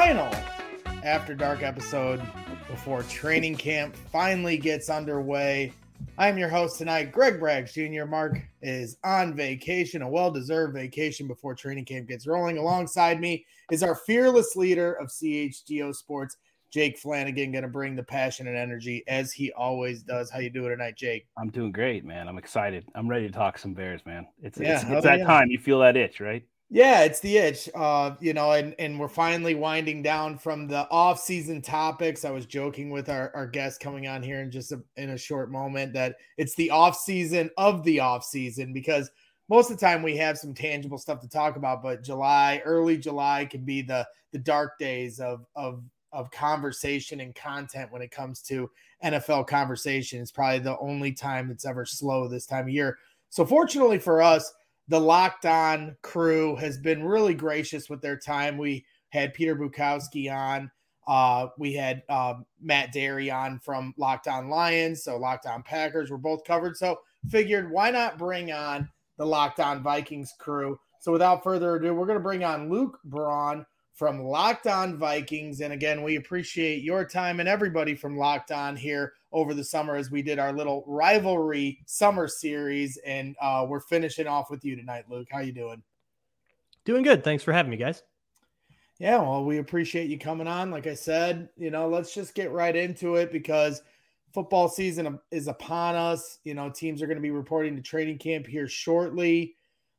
final After Dark episode before training camp finally gets underway. I'm your host tonight, Greg Braggs Jr. Mark is on vacation, a well-deserved vacation before training camp gets rolling. Alongside me is our fearless leader of CHGO Sports, Jake Flanagan, going to bring the passion and energy as he always does. How you doing tonight, Jake? I'm doing great, man. I'm excited. I'm ready to talk some Bears, man. It's that time. You feel that itch, right? Yeah, it's the itch. And we're finally winding down from the off-season topics. I was joking with our guest coming on here in a short moment that it's the off-season of the off-season, because most of the time we have some tangible stuff to talk about, but early July can be the dark days of conversation and content when it comes to NFL conversation. It's probably the only time it's ever slow this time of year. So fortunately for us, the Locked On crew has been really gracious with their time. We had Peter Bukowski on. We had Matt Derry on from Locked On Lions. So Locked On Packers were both covered. So figured, why not bring on the Locked On Vikings crew? So without further ado, we're going to bring on Luke Braun from Locked On Vikings. And again, we appreciate your time and everybody from Locked On here over the summer as we did our little rivalry summer series. And we're finishing off with you tonight, Luke. How you doing? Doing good. Thanks for having me, guys. Yeah, well, we appreciate you coming on. Like I said, let's just get right into it because football season is upon us. Teams are going to be reporting to training camp here shortly.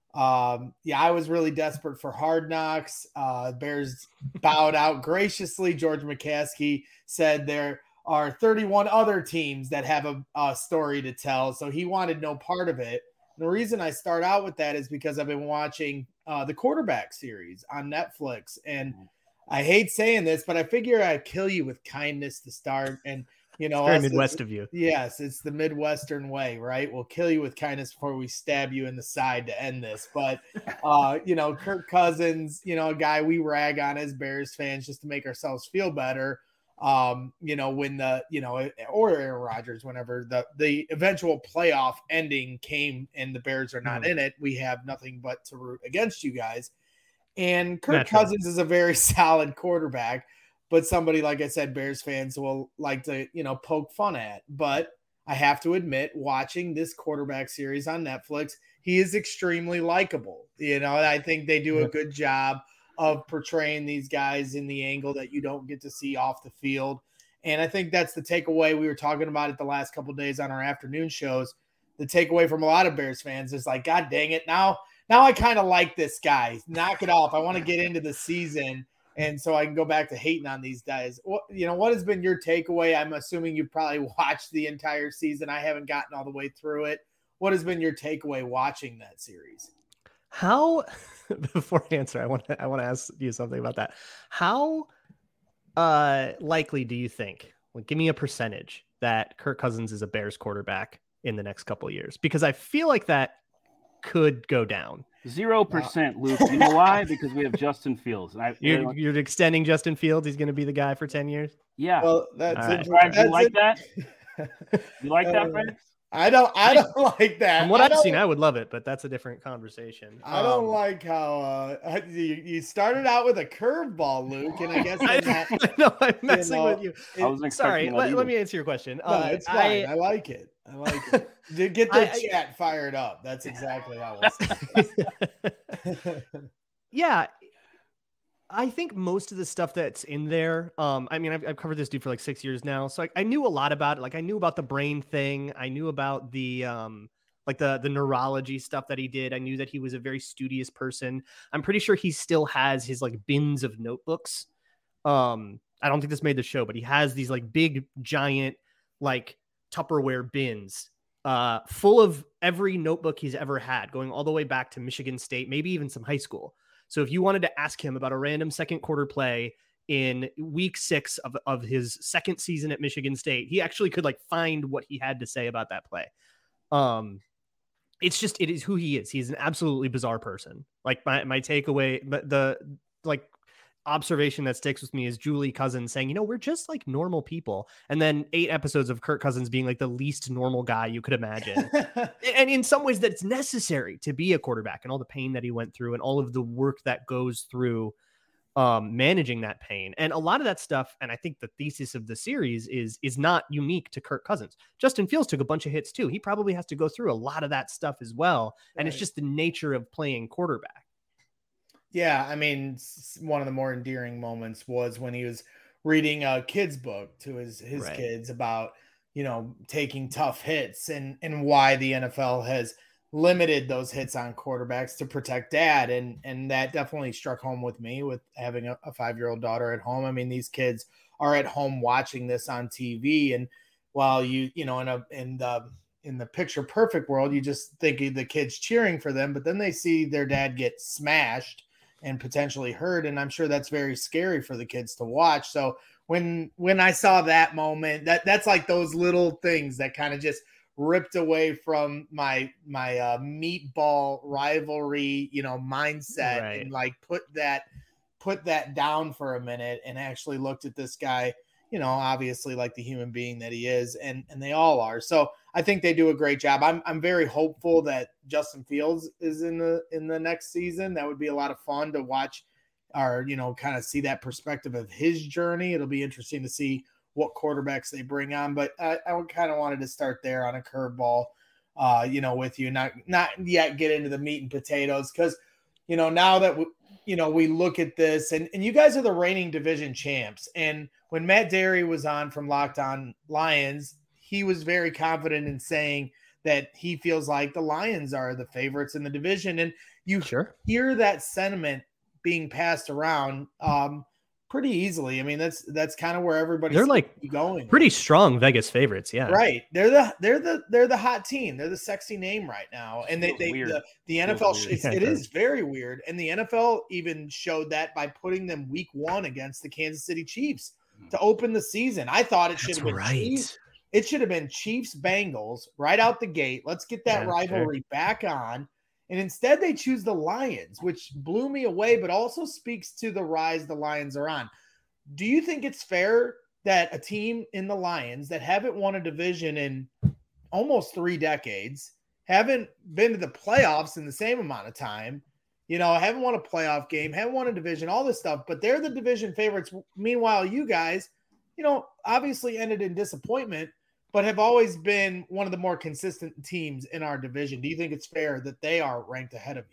I was really desperate for Hard Knocks. Bears bowed out graciously. George McCaskey said there are 31 other teams that have a story to tell, so he wanted no part of it. And the reason I start out with that is because I've been watching the quarterback series on Netflix, and I hate saying this, but I figure I'd kill you with kindness to start. And it's very Midwest of you. Yes, it's the Midwestern way, right? We'll kill you with kindness before we stab you in the side to end this. But, Kirk Cousins, a guy we rag on as Bears fans just to make ourselves feel better. Or Aaron Rodgers, whenever the eventual playoff ending came and the Bears are not in it, we have nothing but to root against you guys. And Kirk Cousins is a very solid quarterback. But somebody, like I said, Bears fans will like to, poke fun at. But I have to admit, watching this quarterback series on Netflix, he is extremely likable. I think they do a good job of portraying these guys in the angle that you don't get to see off the field. And I think that's the takeaway. We were talking about it the last couple of days on our afternoon shows. The takeaway from a lot of Bears fans is like, God dang it. Now I kind of like this guy. Knock it off. I want to get into the season. And so I can go back to hating on these guys. What has been your takeaway? I'm assuming you've probably watched the entire season. I haven't gotten all the way through it. What has been your takeaway watching that series? How, before I answer, I want to ask you something about that. How likely do you think, give me a percentage, that Kirk Cousins is a Bears quarterback in the next couple of years? Because I feel like that could go down. 0%, Luke. You know why? Because we have Justin Fields. You're extending Justin Fields. He's going to be the guy for 10 years. Yeah. Well, that's right. You like that? You like that, Frank? I don't like that. From what I've seen, I would love it, but that's a different conversation. I don't like how you started out with a curveball, Luke, and I guess I'm messing with you. Sorry, let me answer your question. No, it's fine. I like it. Get the chat fired up. That's exactly how it's. Yeah. I think most of the stuff that's in there, I've covered this dude for like 6 years now. So I knew a lot about it. Like I knew about the brain thing. I knew about the neurology stuff that he did. I knew that he was a very studious person. I'm pretty sure he still has his like bins of notebooks. I don't think this made the show, but he has these like big, giant, like Tupperware bins full of every notebook he's ever had, going all the way back to Michigan State, maybe even some high school. So if you wanted to ask him about a random second quarter play in week 6 of his second season at Michigan State, he actually could like find what he had to say about that play. It is who he is. He's an absolutely bizarre person. Like my takeaway, but the observation that sticks with me is Julie Cousins saying, we're just like normal people. And then 8 episodes of Kirk Cousins being like the least normal guy you could imagine. And in some ways that's necessary to be a quarterback, and all the pain that he went through and all of the work that goes through managing that pain. And a lot of that stuff, and I think the thesis of the series is not unique to Kirk Cousins. Justin Fields took a bunch of hits too. He probably has to go through a lot of that stuff as well. And It's just the nature of playing quarterback. Yeah, I mean, one of the more endearing moments was when he was reading a kid's book to his kids about, taking tough hits and why the NFL has limited those hits on quarterbacks to protect dad. And that definitely struck home with me with having a 5-year-old daughter at home. I mean, these kids are at home watching this on TV. And while in the picture perfect world, you just think of the kids cheering for them, but then they see their dad get smashed and potentially hurt. And I'm sure that's very scary for the kids to watch. So when I saw that moment, that's like those little things that kind of just ripped away from my meatball rivalry, mindset, right, and like put that down for a minute and actually looked at this guy, obviously like the human being that he is, and they all are. So I think they do a great job. I'm very hopeful that Justin Fields is in the next season. That would be a lot of fun to watch, or kind of see that perspective of his journey. It'll be interesting to see what quarterbacks they bring on, but I kind of wanted to start there on a curveball, with you, not yet get into the meat and potatoes, because now that we look at this, and you guys are the reigning division champs, and when Matt Derry was on from Locked On Lions, he was very confident in saying that he feels like the Lions are the favorites in the division, and you hear that sentiment being passed around pretty easily. I mean, that's kind of where everybody's going. Pretty strong Vegas favorites, yeah. Right. They're the hot team. They're the sexy name right now. And the NFL it is very weird. And the NFL even showed that by putting them week 1 against the Kansas City Chiefs to open the season. I thought it should have been Chiefs. It should have been Chiefs Bengals right out the gate. Let's get that rivalry back on. And instead they choose the Lions, which blew me away, but also speaks to the rise the Lions are on. Do you think it's fair that a team in the Lions that haven't won a division in almost 3 decades, haven't been to the playoffs in the same amount of time, haven't won a playoff game, haven't won a division, all this stuff, but they're the division favorites. Meanwhile, you guys, obviously ended in disappointment, but have always been one of the more consistent teams in our division. Do you think it's fair that they are ranked ahead of you?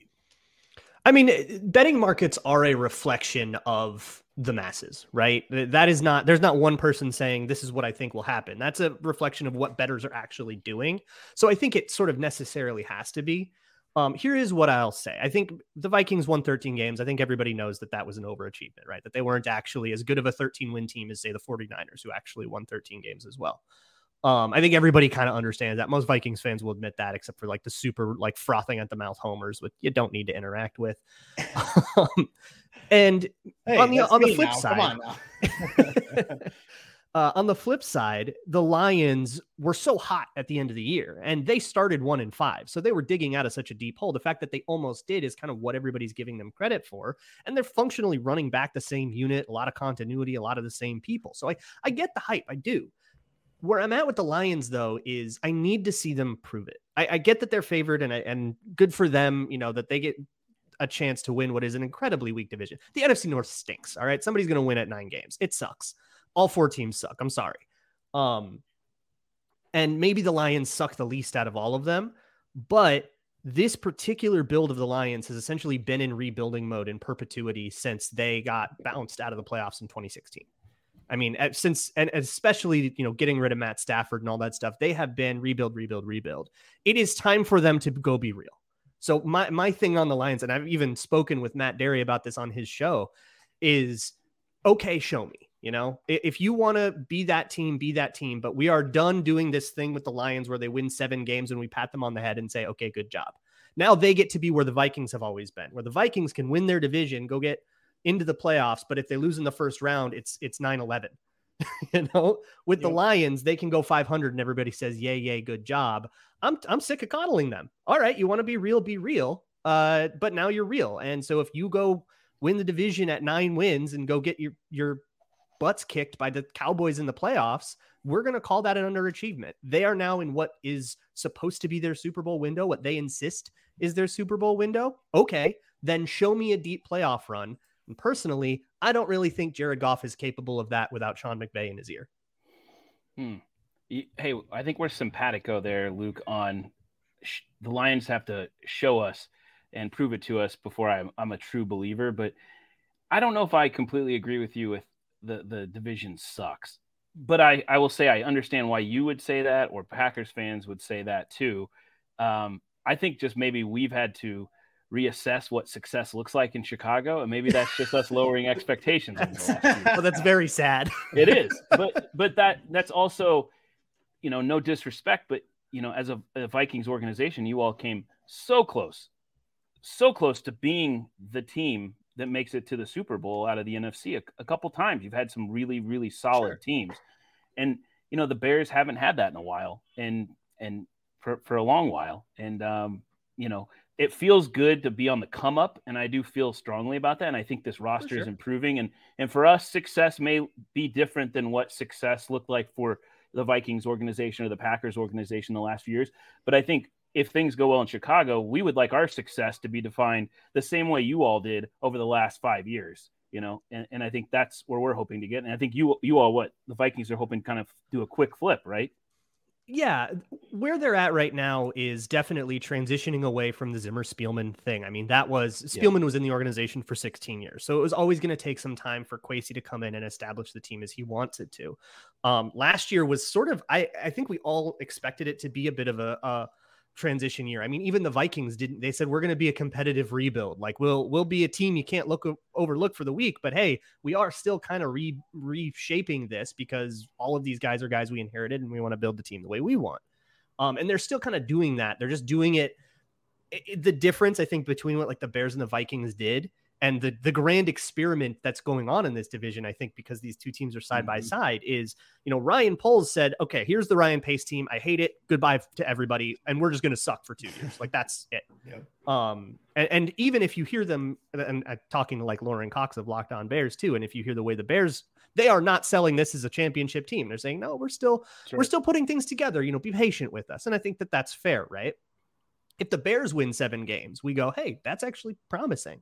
I mean, betting markets are a reflection of the masses, right? There's not one person saying this is what I think will happen. That's a reflection of what bettors are actually doing. So I think it sort of necessarily has to be. Here is what I'll say. I think the Vikings won 13 games. I think everybody knows that was an overachievement, right? That they weren't actually as good of a 13-win team as, say, the 49ers, who actually won 13 games as well. I think everybody kind of understands that. Most Vikings fans will admit that, except for like the super frothing at the mouth homers, which you don't need to interact with. And hey, on the flip side, come on now. On the flip side, the Lions were so hot at the end of the year, and they started 1-5, so they were digging out of such a deep hole. The fact that they almost did is kind of what everybody's giving them credit for, and they're functionally running back the same unit, a lot of continuity, a lot of the same people. So I get the hype, I do. Where I'm at with the Lions, though, is I need to see them prove it. I get that they're favored, and good for them, that they get a chance to win what is an incredibly weak division. The NFC North stinks, all right? Somebody's going to win at 9 games. It sucks. All 4 teams suck. I'm sorry. And maybe the Lions suck the least out of all of them, but this particular build of the Lions has essentially been in rebuilding mode in perpetuity since they got bounced out of the playoffs in 2016. I mean, and especially, getting rid of Matt Stafford and all that stuff, they have been rebuild. It is time for them to go be real. So my thing on the Lions, and I've even spoken with Matt Derry about this on his show, is, okay, show me. If you want to be that team, but we are done doing this thing with the Lions where they win 7 games and we pat them on the head and say, okay, good job. Now they get to be where the Vikings have always been, where the Vikings can win their division, go get into the playoffs, but if they lose in the first round, it's 9-11. With the Lions, they can go 500 and everybody says, yay, good job. I'm sick of coddling them. All right, you want to be real, be real. But now you're real. And so if you go win the division at 9 wins and go get your butts kicked by the Cowboys in the playoffs, we're going to call that an underachievement. They are now in what is supposed to be their Super Bowl window, what they insist is their Super Bowl window. Okay, then show me a deep playoff run. Show me a 9-win And personally, I don't really think Jared Goff is capable of that without Sean McVay in his ear. Hey, I think we're simpatico there, Luke, on the Lions have to show us and prove it to us before I'm a true believer. But I don't know if I completely agree with you with the division sucks. But I will say I understand why you would say that, or Packers fans would say that too. I think just maybe we've had to reassess what success looks like in Chicago, and maybe that's just us lowering expectations. Well, that's very sad. It is, but that's also, no disrespect, but as a Vikings organization, you all came so close to being the team that makes it to the Super Bowl out of the NFC a couple times. You've had some really, really solid teams, and the Bears haven't had that in a while, and for a long while, and it feels good to be on the come up, and I do feel strongly about that. And I think this roster is improving, and for us, success may be different than what success looked like for the Vikings organization or the Packers organization the last few years. But I think if things go well in Chicago, we would like our success to be defined the same way you all did over the last 5 years, and I think that's where we're hoping to get. And I think you all, the Vikings are hoping to kind of do a quick flip, right? Yeah, where they're at right now is definitely transitioning away from the Zimmer Spielman thing. I mean, Spielman was in the organization for 16 years, so it was always going to take some time for Kwesi to come in and establish the team as he wants it to. Last year was sort of, I think we all expected it to be a bit of a transition year. I mean, even the Vikings they said, we're going to be a competitive rebuild. Like we'll be a team you can't overlook for the week, but hey, we are still kind of reshaping this because all of these guys are guys we inherited and we want to build the team the way we want. And they're still kind of doing that. They're just doing it. The difference, I think, between what like the Bears and the Vikings did and the grand experiment that's going on in this division, I think, because these two teams are side by side, is, Ryan Poles said, okay, here's the Ryan Pace team. I hate it. Goodbye to everybody. And we're just going to suck for 2 years. Like, that's it. Yep. And even if you hear them, and talking to like Lauren Cox of Locked On Bears too, and if you hear the way the Bears, they are not selling this as a championship team. They're saying, no, we're still putting things together, be patient with us. And I think that that's fair, right? If the Bears win 7 games, we go, hey, that's actually promising.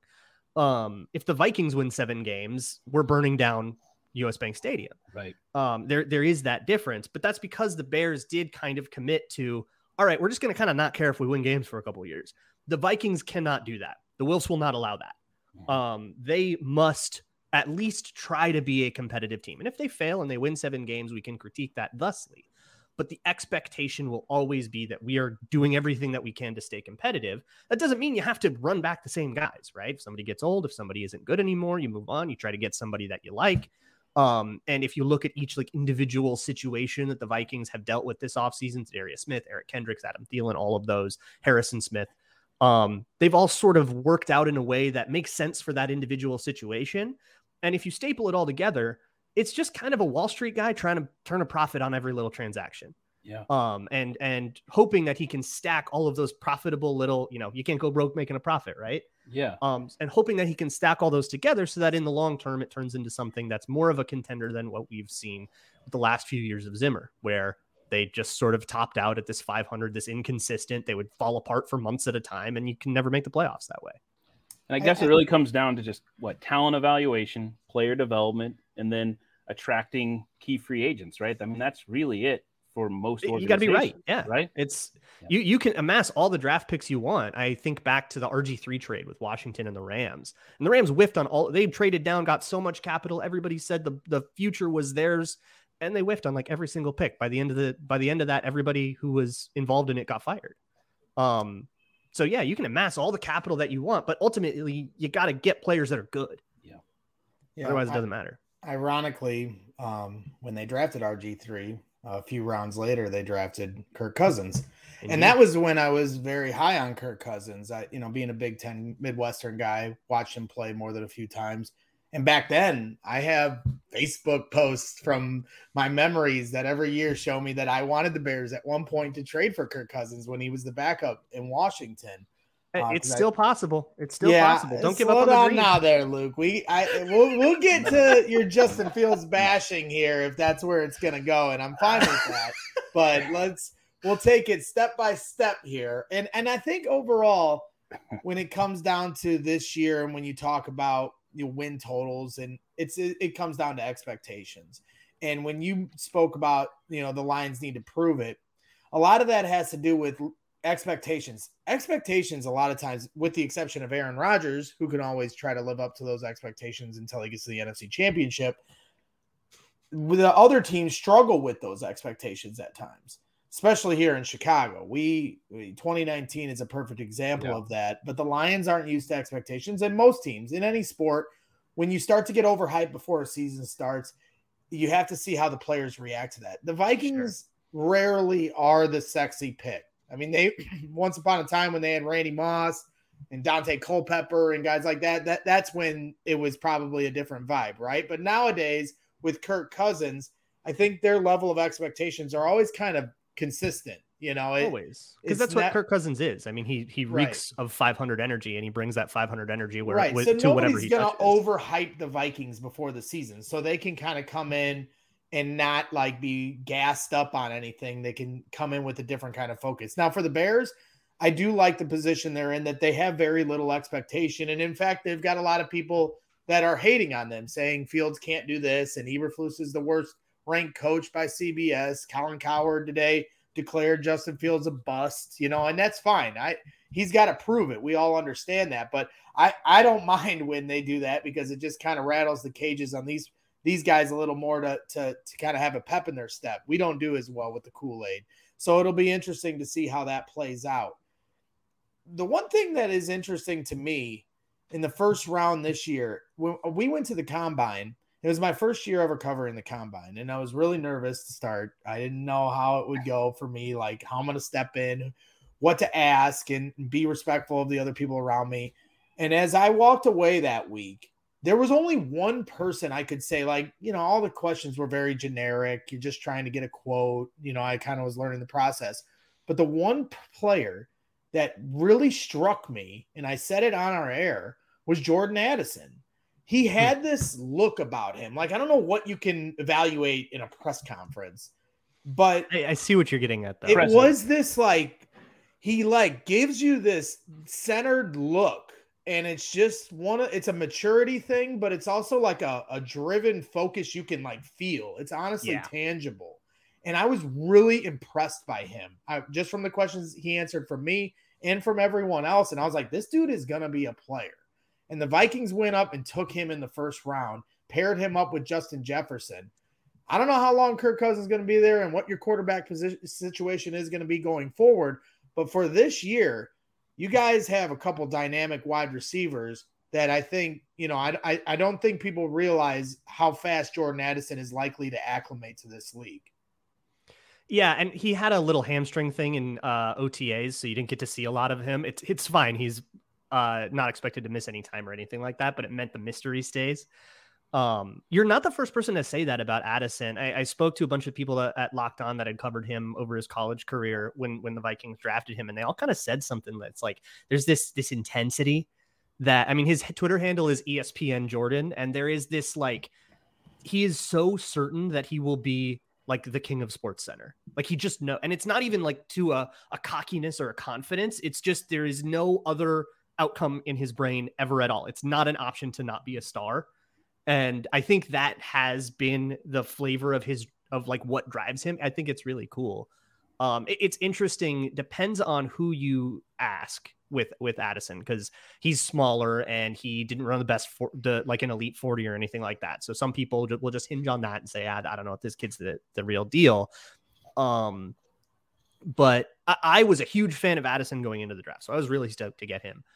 If the Vikings win 7 games, we're burning down US Bank Stadium. Right. There is that difference, but that's because the Bears did kind of commit to, all right, we're just going to kind of not care if we win games for a couple of years. The Vikings cannot do that. The Wilfs will not allow that. They must at least try to be a competitive team. And if they fail and they win 7 games, we can critique that thusly. But the expectation will always be that we are doing everything that we can to stay competitive. That doesn't mean you have to run back the same guys, right? If somebody gets old, if somebody isn't good anymore, you move on, you try to get somebody that you like. And if you look at each like individual situation that the Vikings have dealt with this offseason, Darius Smith, Eric Kendricks, Adam Thielen, all of those, Harrison Smith, they've all sort of worked out in a way that makes sense for that individual situation. And if you staple it all together, it's just kind of a Wall Street guy trying to turn a profit on every little transaction. Yeah. And hoping that he can stack all of those profitable little, you can't go broke making a profit, right? Yeah. And hoping that he can stack all those together so that in the long term, it turns into something that's more of a contender than what we've seen with the last few years of Zimmer, where they just sort of topped out at this 500, this inconsistent, they would fall apart for months at a time, and you can never make the playoffs that way. And I guess it really comes down to just talent evaluation, player development, and then attracting key free agents, right? I mean, that's really it for most organizations. You got to be right. Yeah. Right. You can amass all the draft picks you want. I think back to the RG3 trade with Washington and the Rams. And the Rams whiffed on they traded down, got so much capital. Everybody said the future was theirs. And they whiffed on like every single pick. By the end of that, everybody who was involved in it got fired. So yeah, you can amass all the capital that you want, but ultimately you got to get players that are good. Yeah. Otherwise it doesn't matter. Ironically, when they drafted RG3, a few rounds later, they drafted Kirk Cousins. Indeed. And that was when I was very high on Kirk Cousins. Being a Big Ten Midwestern guy, watched him play more than a few times. And back then, I have Facebook posts from my memories that every year show me that I wanted the Bears at one point to trade for Kirk Cousins when he was the backup in Washington. It's still possible. It's still possible. Don't give up on the dream. Now there, Luke. We'll get to your Justin Fields bashing here if that's where it's going to go, and I'm fine with that. But we'll take it step by step here. And I think overall, when it comes down to this year, and when you talk about win totals, and it comes down to expectations. And when you spoke about, the Lions need to prove it, a lot of that has to do with expectations. Expectations, a lot of times, with the exception of Aaron Rodgers, who can always try to live up to those expectations until he gets to the NFC Championship, the other teams struggle with those expectations at times, especially here in Chicago. 2019 is a perfect example of that, but the Lions aren't used to expectations, and most teams in any sport, when you start to get overhyped before a season starts, you have to see how the players react to that. The Vikings rarely are the sexy pick. I mean, they once upon a time when they had Randy Moss and Dante Culpepper and guys like that's when it was probably a different vibe, right? But nowadays with Kirk Cousins, I think their level of expectations are always kind of consistent, always, because that's what Kirk Cousins is. I mean, he reeks of 500 energy, and he brings that 500 energy to whatever he touches. So nobody's going to overhype the Vikings before the season, so they can kind of come in and not like be gassed up on anything. They can come in with a different kind of focus. Now for the Bears, I do like the position they're in, that they have very little expectation. And in fact, they've got a lot of people that are hating on them, saying Fields can't do this, and Eberflus is the worst ranked coach by CBS. Colin Cowherd today declared Justin Fields a bust, and that's fine. He's got to prove it. We all understand that, but I don't mind when they do that, because it just kind of rattles the cages on these guys a little more to kind of have a pep in their step. We don't do as well with the Kool-Aid. So it'll be interesting to see how that plays out. The one thing that is interesting to me in the first round this year, when we went to the Combine, it was my first year ever covering the Combine, and I was really nervous to start. I didn't know how it would go for me, like how I'm going to step in, what to ask, and be respectful of the other people around me. And as I walked away that week, there was only one person I could say, like, all the questions were very generic. You're just trying to get a quote. I kind of was learning the process. But the one player that really struck me, and I said it on our air, was Jordan Addison. He had this look about him. Like, I don't know what you can evaluate in a press conference, but I see what you're getting at, though. It was this, like, he like gives you this centered look. And it's just it's a maturity thing, but it's also like a driven focus you can like feel. It's honestly tangible. And I was really impressed by him. Just from the questions he answered from me and from everyone else. And I was like, this dude is going to be a player. And the Vikings went up and took him in the first round, paired him up with Justin Jefferson. I don't know how long Kirk Cousins is going to be there and what your quarterback situation is going to be going forward. But for this year, you guys have a couple dynamic wide receivers that I think, I don't think people realize how fast Jordan Addison is likely to acclimate to this league. Yeah, and he had a little hamstring thing in OTAs, so you didn't get to see a lot of him. It's fine. He's not expected to miss any time or anything like that, but it meant the mystery stays. You're not the first person to say that about Addison. I spoke to a bunch of people at Locked On that had covered him over his college career when the Vikings drafted him, and they all kind of said something that's like, there's this intensity that, I mean, his Twitter handle is ESPN Jordan, and there is this, like, he is so certain that he will be like the king of Sports Center. Like, he just know, and it's not even like to a cockiness or a confidence. It's just, there is no other outcome in his brain ever at all. It's not an option to not be a star. And I think that has been the flavor of like what drives him. I think it's really cool. It's interesting. Depends on who you ask with Addison, because he's smaller and he didn't run the best like an elite 40 or anything like that. So some people will just hinge on that and say, I don't know if this kid's the real deal. But I was a huge fan of Addison going into the draft, so I was really stoked to get him.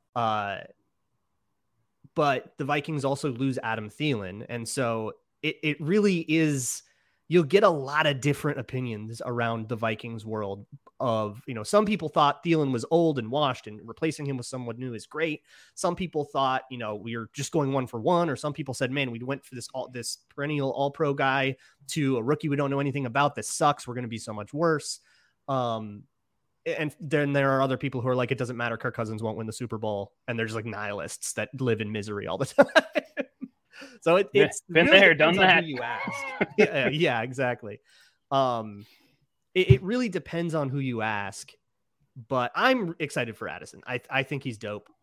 But the Vikings also lose Adam Thielen. And so it really is, you'll get a lot of different opinions around the Vikings world of, some people thought Thielen was old and washed and replacing him with someone new is great. Some people thought, we are just going 1-for-1, or some people said, man, we went for this perennial all-pro guy to a rookie we don't know anything about. This sucks. We're going to be so much worse. And then there are other people who are like, it doesn't matter, Kirk Cousins won't win the Super Bowl. And they're just like nihilists that live in misery all the time. So it's been really there, done that. You ask. yeah, exactly. It really depends on who you ask, but I'm excited for Addison. I think he's dope.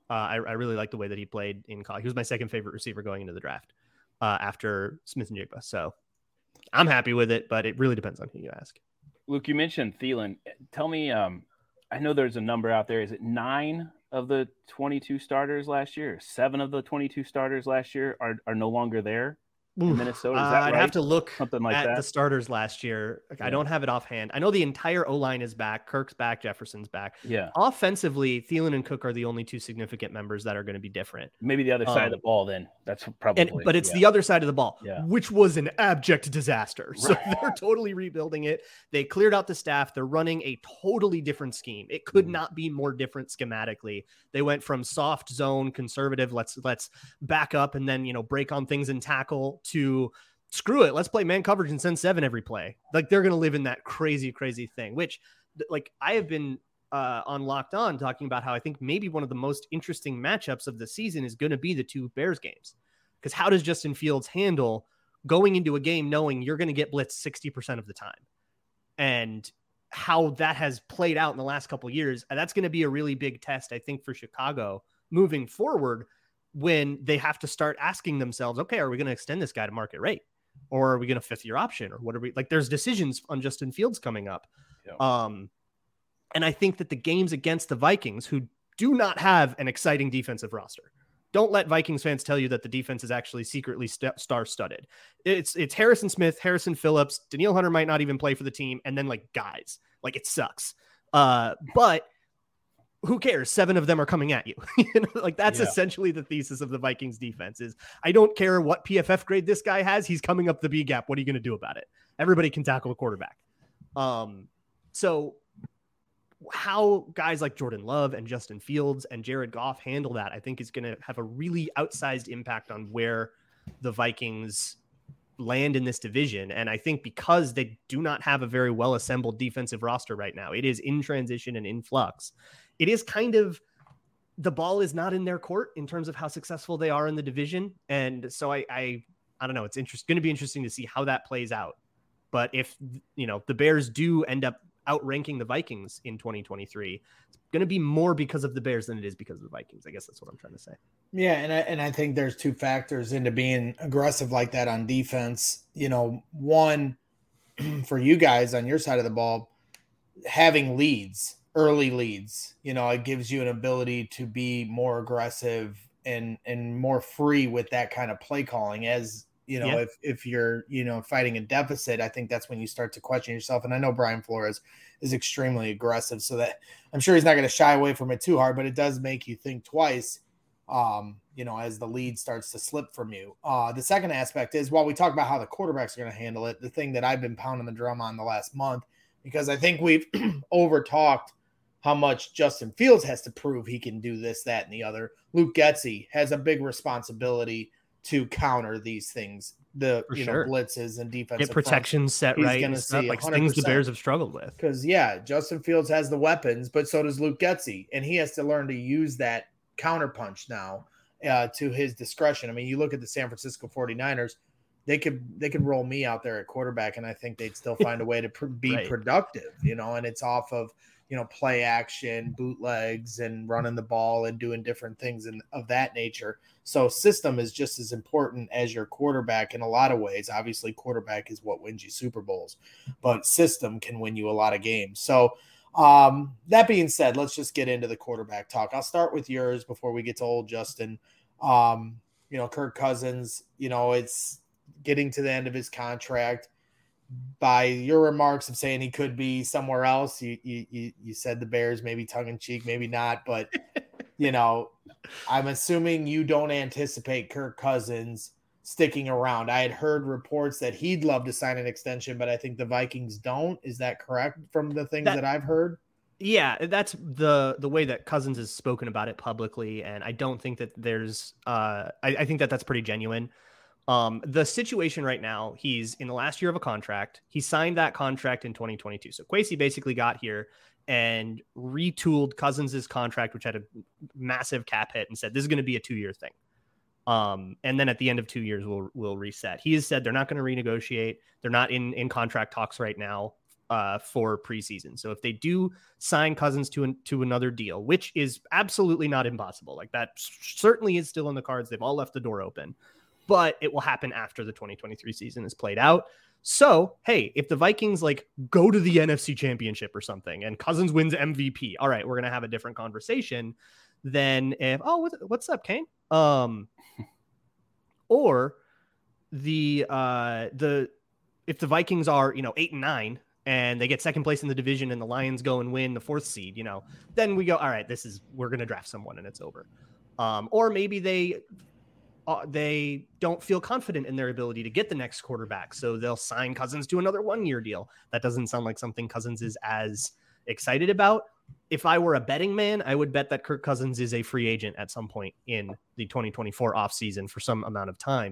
I really like the way that he played in college. He was my second favorite receiver going into the draft after Smith-Njigba. So I'm happy with it, but it really depends on who you ask. Luke, you mentioned Thielen. Tell me, I know there's a number out there. Is it 9 of the 22 starters last year? 7 of the 22 starters last year are no longer there in Minnesota? Is that I'd right? have to look something like at that. The starters last year. Like, I don't have it offhand. I know the entire O-line is back. Kirk's back. Jefferson's back. Yeah. Offensively, Thielen and Cook are the only 2 significant members that are going to be different. Maybe the other side of the ball then. That's probably. But it's the other side of the ball, Yeah. which was an abject disaster. So Right. they're totally rebuilding it. They cleared out the staff. They're running a totally different scheme. It could not be more different schematically. They went from soft zone, conservative, let's back up and then, break on things and tackle, to screw it, let's play man coverage and send 7 every play. Like, they're going to live in that crazy thing, which, like, I have been on Locked On talking about how I think maybe one of the most interesting matchups of the season is going to be the 2 Bears games. Because how does Justin Fields handle going into a game knowing you're going to get blitzed 60% of the time? And how that has played out in the last couple of years. And that's going to be a really big test, I think, for Chicago moving forward, when they have to start asking themselves, okay, are we going to extend this guy to market rate? Or are we going to 5th-year option? Or what are we like? There's decisions on Justin Fields coming up. Yeah. And I think that the games against the Vikings, who do not have an exciting defensive roster, don't let Vikings fans tell you that the defense is actually secretly star-studded. It's Harrison Smith, Harrison Phillips, Danielle Hunter might not even play for the team, and then like guys. Like, it sucks. But who cares? 7 of them are coming at you. Like, that's essentially the thesis of the Vikings defense is, I don't care what PFF grade this guy has. He's coming up the B gap. What are you going to do about it? Everybody can tackle a quarterback. So how guys like Jordan Love and Justin Fields and Jared Goff handle that, I think, is going to have a really outsized impact on where the Vikings land in this division. And I think because they do not have a very well assembled defensive roster right now, it is in transition and in flux. It is kind of, the ball is not in their court in terms of how successful they are in the division. And so I don't know. It's going to be interesting to see how that plays out. But if, the Bears do end up outranking the Vikings in 2023, it's going to be more because of the Bears than it is because of the Vikings. I guess that's what I'm trying to say. Yeah. And I think there's 2 factors into being aggressive like that on defense. One, for you guys on your side of the ball, having leads, early leads, it gives you an ability to be more aggressive and more free with that kind of play calling. As if you're, fighting a deficit, I think that's when you start to question yourself. And I know Brian Flores is extremely aggressive, so that I'm sure he's not going to shy away from it too hard, but it does make you think twice, as the lead starts to slip from you. The second aspect is, while we talk about how the quarterbacks are going to handle it, the thing that I've been pounding the drum on the last month, because I think we've over-talked how much Justin Fields has to prove he can do this, that, and the other. Luke Getsy has a big responsibility to counter these things, blitzes and defensive get protections set right, and stuff, like things the Bears have struggled with. Because Justin Fields has the weapons, but so does Luke Getsy, and he has to learn to use that counterpunch now to his discretion. I mean, you look at the San Francisco 49ers, they could roll me out there at quarterback, and I think they'd still find a way to be productive, and it's off of play action, bootlegs, and running the ball and doing different things of that nature. So system is just as important as your quarterback in a lot of ways. Obviously, quarterback is what wins you Super Bowls, but system can win you a lot of games. So that being said, let's just get into the quarterback talk. I'll start with yours before we get to old Justin. Kirk Cousins, it's getting to the end of his contract. By your remarks of saying he could be somewhere else, you said the Bears, maybe tongue in cheek, maybe not, but I'm assuming you don't anticipate Kirk Cousins sticking around. I had heard reports that he'd love to sign an extension, but I think the Vikings don't. Is that correct from the things that I've heard? Yeah, that's the way that Cousins has spoken about it publicly, and I don't think that there's I think that that's pretty genuine. The situation right now, he's in the last year of a contract. He signed that contract in 2022. So Kwesi basically got here and retooled Cousins' contract, which had a massive cap hit, and said, this is going to be a 2-year thing. And then at the end of 2 years, we'll reset. He has said they're not going to renegotiate. They're not in contract talks right now for preseason. So if they do sign Cousins to another deal, which is absolutely not impossible, like that certainly is still in the cards. They've all left the door open, but it will happen after the 2023 season is played out. So, hey, if the Vikings like go to the NFC Championship or something and Cousins wins MVP, all right, we're going to have a different conversation than if, what's up, Kane? Or if the Vikings are, 8-9 and they get second place in the division and the Lions go and win the 4th seed, then we go, all right, we're going to draft someone and it's over. Or maybe they don't feel confident in their ability to get the next quarterback, so they'll sign Cousins to another 1-year deal. That doesn't sound like something Cousins is as excited about. If I were a betting man, I would bet that Kirk Cousins is a free agent at some point in the 2024 offseason for some amount of time.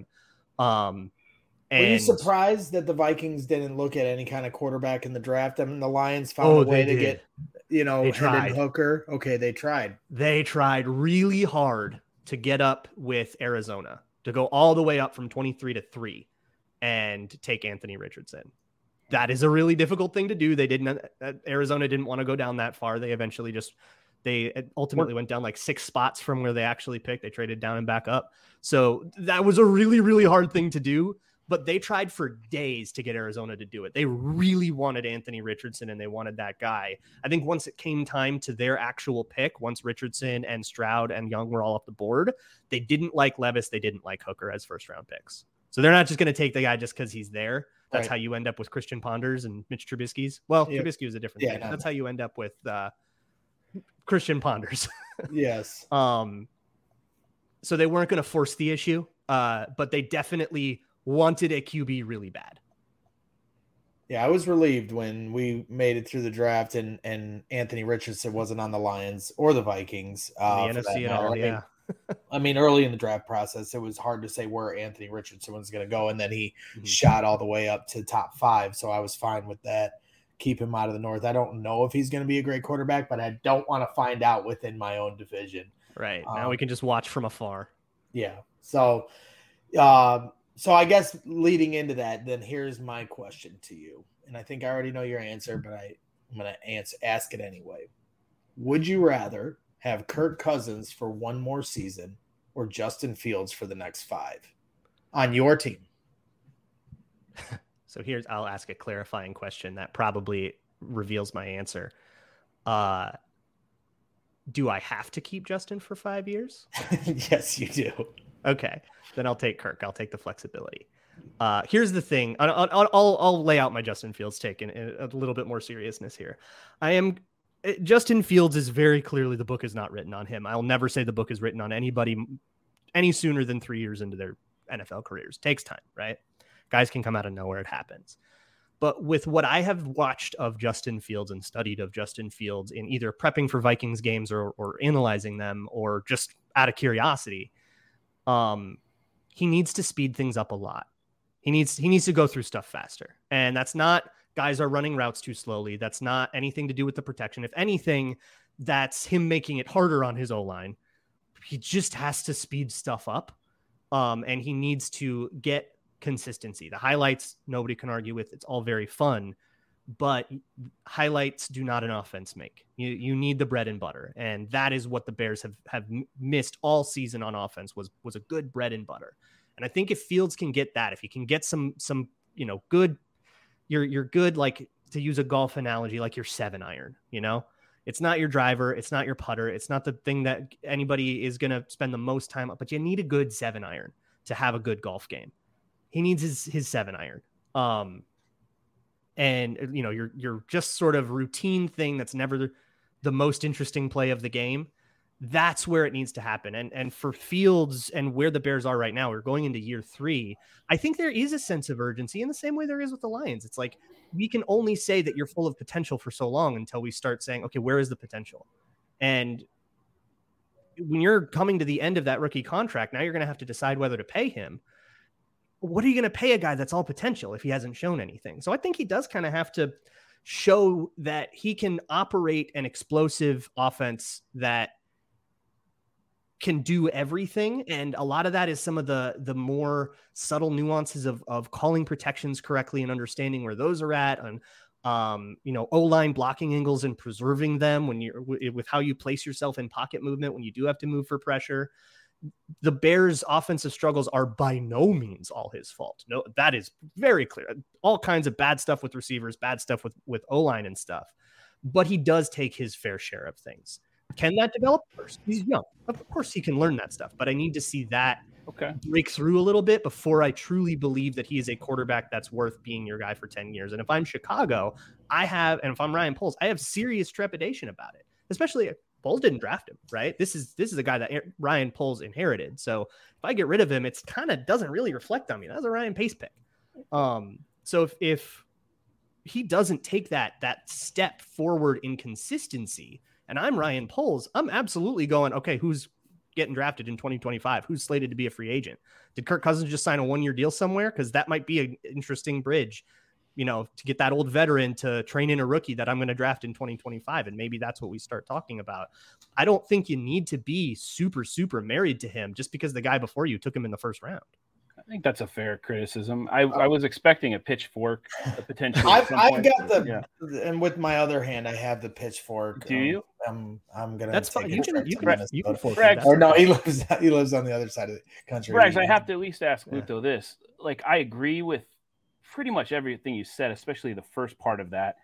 Were you surprised that the Vikings didn't look at any kind of quarterback in the draft? I mean, the Lions found a way to get, Hendon Hooker. Okay, they tried. They tried really hard to get up with Arizona, to go all the way up from 23-3 and take Anthony Richardson. That is a really difficult thing to do. Arizona didn't want to go down that far. They ultimately went down like 6 spots from where they actually picked. They traded down and back up. So that was a really, really hard thing to do, but they tried for days to get Arizona to do it. They really wanted Anthony Richardson and they wanted that guy. I think once it came time to their actual pick, once Richardson and Stroud and Young were all off the board, they didn't like Levis. They didn't like Hooker as 1st-round picks. So they're not just going to take the guy just because he's there. That's right. How you end up with Christian Ponders and Mitch Trubisky's. Well, yeah. Trubisky was a different thing. That's how you end up with Christian Ponders. Yes. So they weren't going to force the issue, but they definitely wanted a QB really bad. Yeah, I was relieved when we made it through the draft and Anthony Richardson wasn't on the Lions or the Vikings. The NFC at all, yeah. I mean, early in the draft process, it was hard to say where Anthony Richardson was going to go, and then he shot all the way up to top 5, so I was fine with that. Keep him out of the North. I don't know if he's going to be a great quarterback, but I don't want to find out within my own division. Right. Now we can just watch from afar. Yeah. So I guess leading into that, then here's my question to you. And I think I already know your answer, but I'm going to ask it anyway. Would you rather have Kirk Cousins for 1 more season or Justin Fields for the next 5 on your team? So I'll ask a clarifying question that probably reveals my answer. Do I have to keep Justin for 5 years? Yes, you do. Okay, then I'll take Kirk. I'll take the flexibility. Here's the thing. I'll lay out my Justin Fields take in a little bit more seriousness here. Justin Fields is very clearly, the book is not written on him. I'll never say the book is written on anybody any sooner than 3 years into their NFL careers. Takes time, right? Guys can come out of nowhere. It happens. But with what I have watched of Justin Fields and studied of Justin Fields in either prepping for Vikings games or analyzing them or just out of curiosity, he needs to speed things up a lot. He needs to go through stuff faster. And that's not guys are running routes too slowly. That's not anything to do with the protection. If anything, that's him making it harder on his O-line. He just has to speed stuff up. And he needs to get consistency. The highlights, nobody can argue with. It's all very fun, but highlights do not an offense make. You need the bread and butter. And that is what the Bears have missed all season on offense was a good bread and butter. And I think if Fields can get that, if he can get some good, you're good, like to use a golf analogy, like your 7-iron, it's not your driver. It's not your putter. It's not the thing that anybody is going to spend the most time on, but you need a good 7-iron to have a good golf game. He needs his 7-iron. And you're just sort of routine thing that's never the most interesting play of the game. That's where it needs to happen. And for Fields and where the Bears are right now, we're going into year 3. I think there is a sense of urgency in the same way there is with the Lions. It's like, we can only say that you're full of potential for so long until we start saying, okay, where is the potential? And when you're coming to the end of that rookie contract, now you're going to have to decide whether to pay him. What are you going to pay a guy that's all potential if he hasn't shown anything? So I think he does kind of have to show that he can operate an explosive offense that can do everything. And a lot of that is some of the more subtle nuances of calling protections correctly and understanding where those are at, and O-line blocking angles and preserving them when you're with how you place yourself in pocket movement when you do have to move for pressure. The Bears' offensive struggles are by no means all his fault. No, that is very clear. All kinds of bad stuff with receivers, bad stuff with O-line and stuff. But he does take his fair share of things. Can that develop first? He's young. Of course he can learn that stuff, but I need to see that break through a little bit before I truly believe that he is a quarterback that's worth being your guy for 10 years. And if I'm Chicago, and if I'm Ryan Poles, I have serious trepidation about it, especially if Poles didn't draft him, right? This is a guy that Ryan Poles inherited. So if I get rid of him, it's kind of doesn't really reflect on me. That's a Ryan Pace pick. So if he doesn't take that step forward in consistency, and I'm Ryan Poles, I'm absolutely going, okay, who's getting drafted in 2025? Who's slated to be a free agent? Did Kirk Cousins just sign a 1-year deal somewhere? Because that might be an interesting bridge, to get that old veteran to train in a rookie that I'm going to draft in 2025. And maybe that's what we start talking about. I don't think you need to be super, super married to him just because the guy before you took him in the first round. I think that's a fair criticism. I was expecting a pitchfork, potentially. I've got and with my other hand, I have the pitchfork. Do you? I'm gonna. That's fine. You can Braggs, or no, he lives on the other side of the country. Braggs, I have to at least ask Luto this. Like, I agree with pretty much everything you said, especially the first part of that.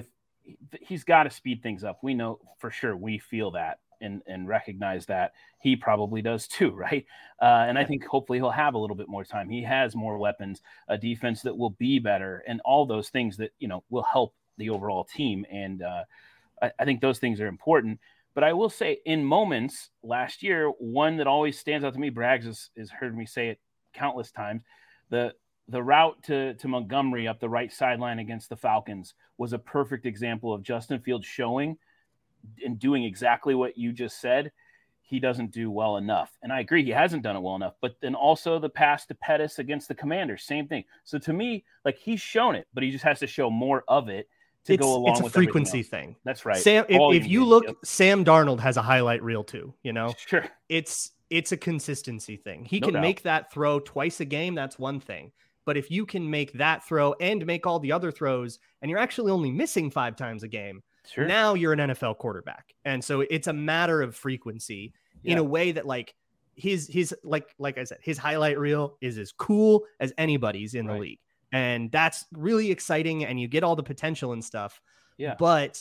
He's got to speed things up. We know for sure. We feel that. And recognize that. He probably does too, right? And I think hopefully he'll have a little bit more time. He has more weapons, a defense that will be better, and all those things that will help the overall team. And I think those things are important. But I will say, in moments last year, one that always stands out to me, Braggs has heard me say it countless times. The route to Montgomery up the right sideline against the Falcons was a perfect example of Justin Fields showing and doing exactly what you just said. He doesn't do well enough. And I agree, he hasn't done it well enough. But then also the pass to Pettis against the Commanders, same thing. So to me, like, he's shown it, but he just has to show more of it to go along with it. It's a frequency thing. That's right. Sam, if you look, Sam Darnold has a highlight reel too, Sure. It's a consistency thing. He can make that throw twice a game. That's one thing. But if you can make that throw and make all the other throws, and you're actually only missing 5 times a game, sure, now you're an NFL quarterback. And so it's a matter of frequency in a way that, like, his like I said, his highlight reel is as cool as anybody's in the league. And that's really exciting, and you get all the potential and stuff. Yeah. But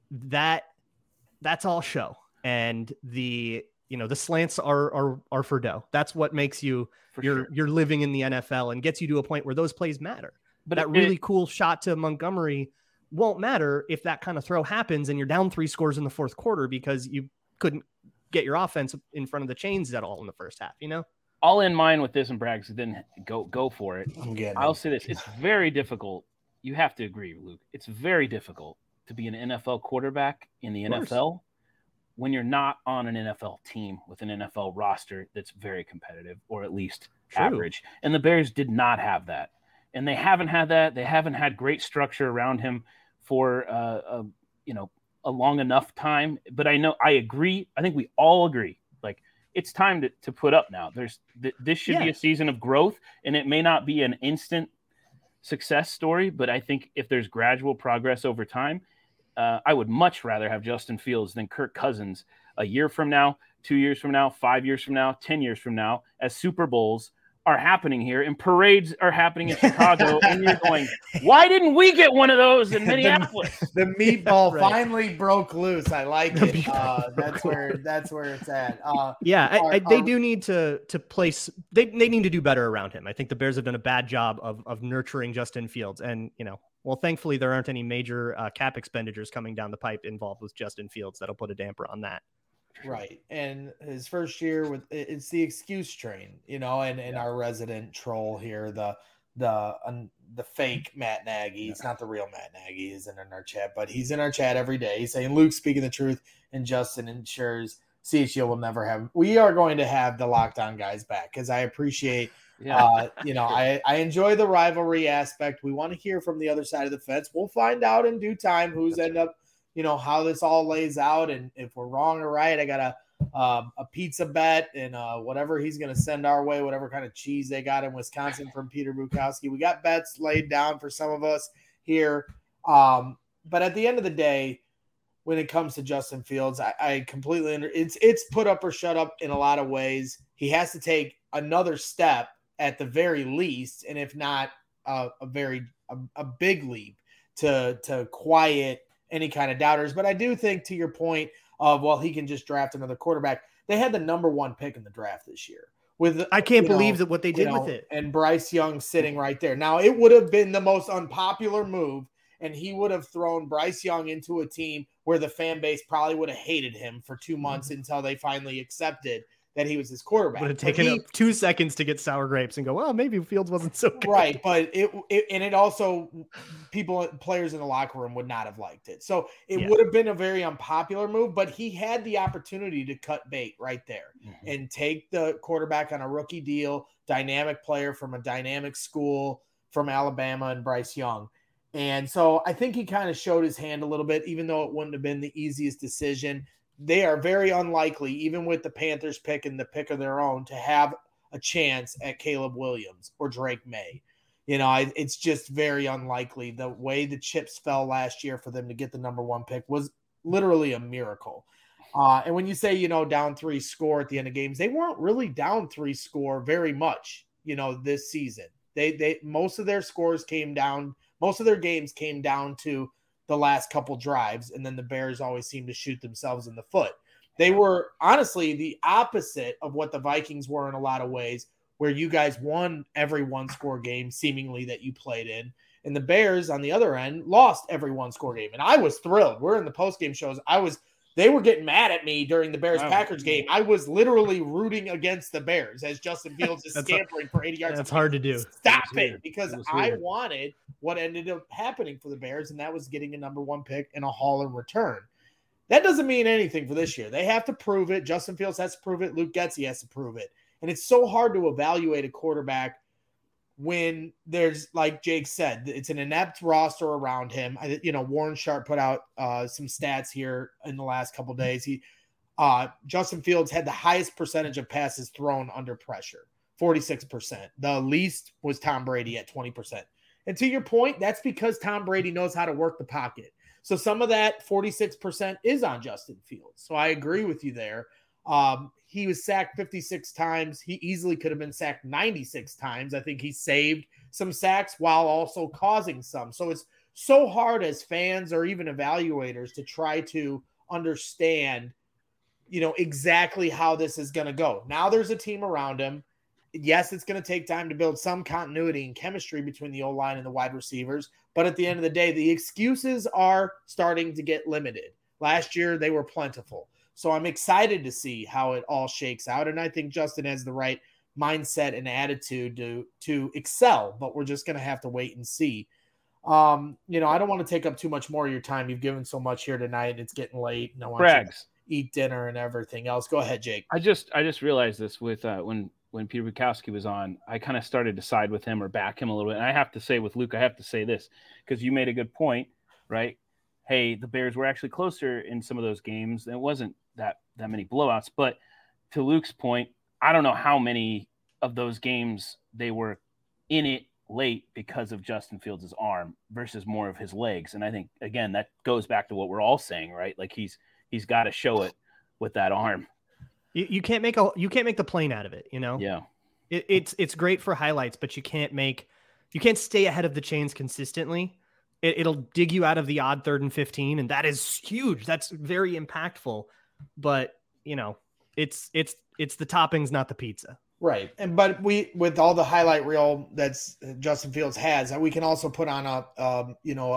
that's all show. And the slants are for dough. That's what makes you you're living in the NFL and gets you to a point where those plays matter. But that really cool shot to Montgomery won't matter if that kind of throw happens and you're down 3 scores in the fourth quarter because you couldn't get your offense in front of the chains at all in the first half, All in mind with this, and Braggs didn't go for it. I'll say this. It's very difficult. You have to agree, Luke. It's very difficult to be an NFL quarterback in the NFL when you're not on an NFL team with an NFL roster that's very competitive, or at least average. And the Bears did not have that. And they haven't had that. They haven't had great structure around him for a long enough time. But I agree. I think we all agree. Like, it's time to put up now. This should be a season of growth, and it may not be an instant success story, but I think if there's gradual progress over time, I would much rather have Justin Fields than Kirk Cousins a year from now, 2 years from now, 5 years from now, 10 years from now, as Super Bowls are happening here and parades are happening in Chicago. And you're going, why didn't we get one of those in Minneapolis? The meatball finally broke loose. I like it. That's where it's at. They do need to place. They need to do better around him. I think the Bears have done a bad job of nurturing Justin Fields. And, thankfully there aren't any major cap expenditures coming down the pipe involved with Justin Fields that'll put a damper on that. Right. And his first year it's the excuse train, and our resident troll here, the fake Matt Nagy. It's not the real Matt Nagy. He's in our chat, but he's in our chat every day. He's saying Luke's speaking the truth, and Justin ensures CHGO will never have. We are going to have the lockdown guys back because I appreciate. I enjoy the rivalry aspect. We want to hear from the other side of the fence. We'll find out in due time who's end up. How this all lays out, and if we're wrong or right. I got a pizza bet and whatever he's going to send our way, whatever kind of cheese they got in Wisconsin from Peter Bukowski. We got bets laid down for some of us here. But at the end of the day, when it comes to Justin Fields, I completely it's put up or shut up in a lot of ways. He has to take another step at the very least, and if not a big leap to quiet any kind of doubters. But I do think, to your point of, well, he can just draft another quarterback. They had the number 1 pick in the draft this year. I can't believe that what they did with it. And Bryce Young sitting right there. Now, it would have been the most unpopular move, and he would have thrown Bryce Young into a team where the fan base probably would have hated him for 2 months until they finally accepted that he was his quarterback. Would have taken up 2 seconds to get sour grapes and go, well, maybe Fields wasn't so good. Right, but it also, players in the locker room would not have liked it. So it would have been a very unpopular move, but he had the opportunity to cut bait right there and take the quarterback on a rookie deal, dynamic player from a dynamic school from Alabama, and Bryce Young. And so I think he kind of showed his hand a little bit, even though it wouldn't have been the easiest decision. They are very unlikely, even with the Panthers pick and the pick of their own, to have a chance at Caleb Williams or Drake May. It's just very unlikely. The way the chips fell last year for them to get the number 1 pick was literally a miracle. And when you say, down 3 score at the end of games, they weren't really down 3 score very much, this season. They most of their scores came down. Most of their games came down to the last couple drives, and then the Bears always seem to shoot themselves in the foot. They were honestly the opposite of what the Vikings were in a lot of ways, where you guys won every 1-score game seemingly that you played in, and the Bears on the other end lost every 1-score game. And I was thrilled. We're in the post-game shows. They were getting mad at me during the Bears-Packers game. I was literally rooting against the Bears as Justin Fields is scampering for 80 yards. That's hard to do. Stop it, because I wanted what ended up happening for the Bears, and that was getting a number 1 pick and a haul in return. That doesn't mean anything for this year. They have to prove it. Justin Fields has to prove it. Luke Getsy has to prove it. And it's so hard to evaluate a quarterback when there's, like Jake said, it's an inept roster around him. Warren Sharp put out some stats here in the last couple of days. Justin Fields had the highest percentage of passes thrown under pressure, 46%. The least was Tom Brady at 20%. And to your point, that's because Tom Brady knows how to work the pocket. So some of that 46% is on Justin Fields. So I agree with you there. He was sacked 56 times. He easily could have been sacked 96 times. I think he saved some sacks while also causing some. So it's so hard as fans or even evaluators to try to understand, exactly how this is going to go. Now there's a team around him. Yes, it's going to take time to build some continuity and chemistry between the O-line and the wide receivers. But at the end of the day, the excuses are starting to get limited. Last year, they were plentiful. So I'm excited to see how it all shakes out. And I think Justin has the right mindset and attitude to excel, but we're just going to have to wait and see. I don't want to take up too much more of your time. You've given so much here tonight. It's getting late. And I want you to eat dinner and everything else. Go ahead, Jake. I just realized this with when Peter Bukowski was on, I kind of started to side with him or back him a little bit. And I have to say with Luke, I have to say this, because you made a good point, right? Hey, the Bears were actually closer in some of those games. It wasn't that many blowouts. But to Luke's point, I don't know how many of those games they were in it late because of Justin Fields' arm versus more of his legs. And I think, again, that goes back to what we're all saying, right? Like he's got to show it with that arm. You can't make the plane out of it, Yeah. It's great for highlights, but you can't stay ahead of the chains consistently. It'll dig you out of the odd 3rd and 15, and that is huge. That's very impactful. But it's the toppings, not the pizza. Right. But with all the highlight reel that's Justin Fields has, we can also put on a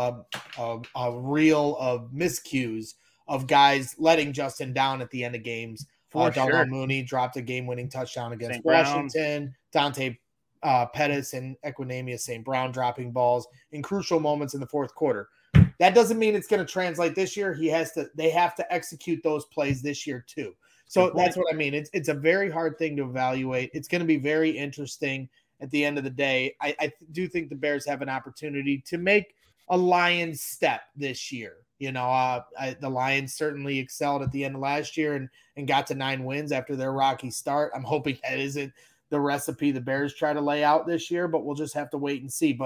reel of miscues of guys letting Justin down at the end of games. Darnell Mooney dropped a game-winning touchdown against St. Washington. Dante Pettis and Equinemius St. Brown dropping balls in crucial moments in the fourth quarter. That doesn't mean it's going to translate this year. They have to execute those plays this year too. So that's what I mean. It's a very hard thing to evaluate. It's going to be very interesting at the end of the day. I do think the Bears have an opportunity to make a Lions step this year. The Lions certainly excelled at the end of last year and got to 9 wins after their rocky start. I'm hoping that isn't the recipe the Bears try to lay out this year, but we'll just have to wait and see. But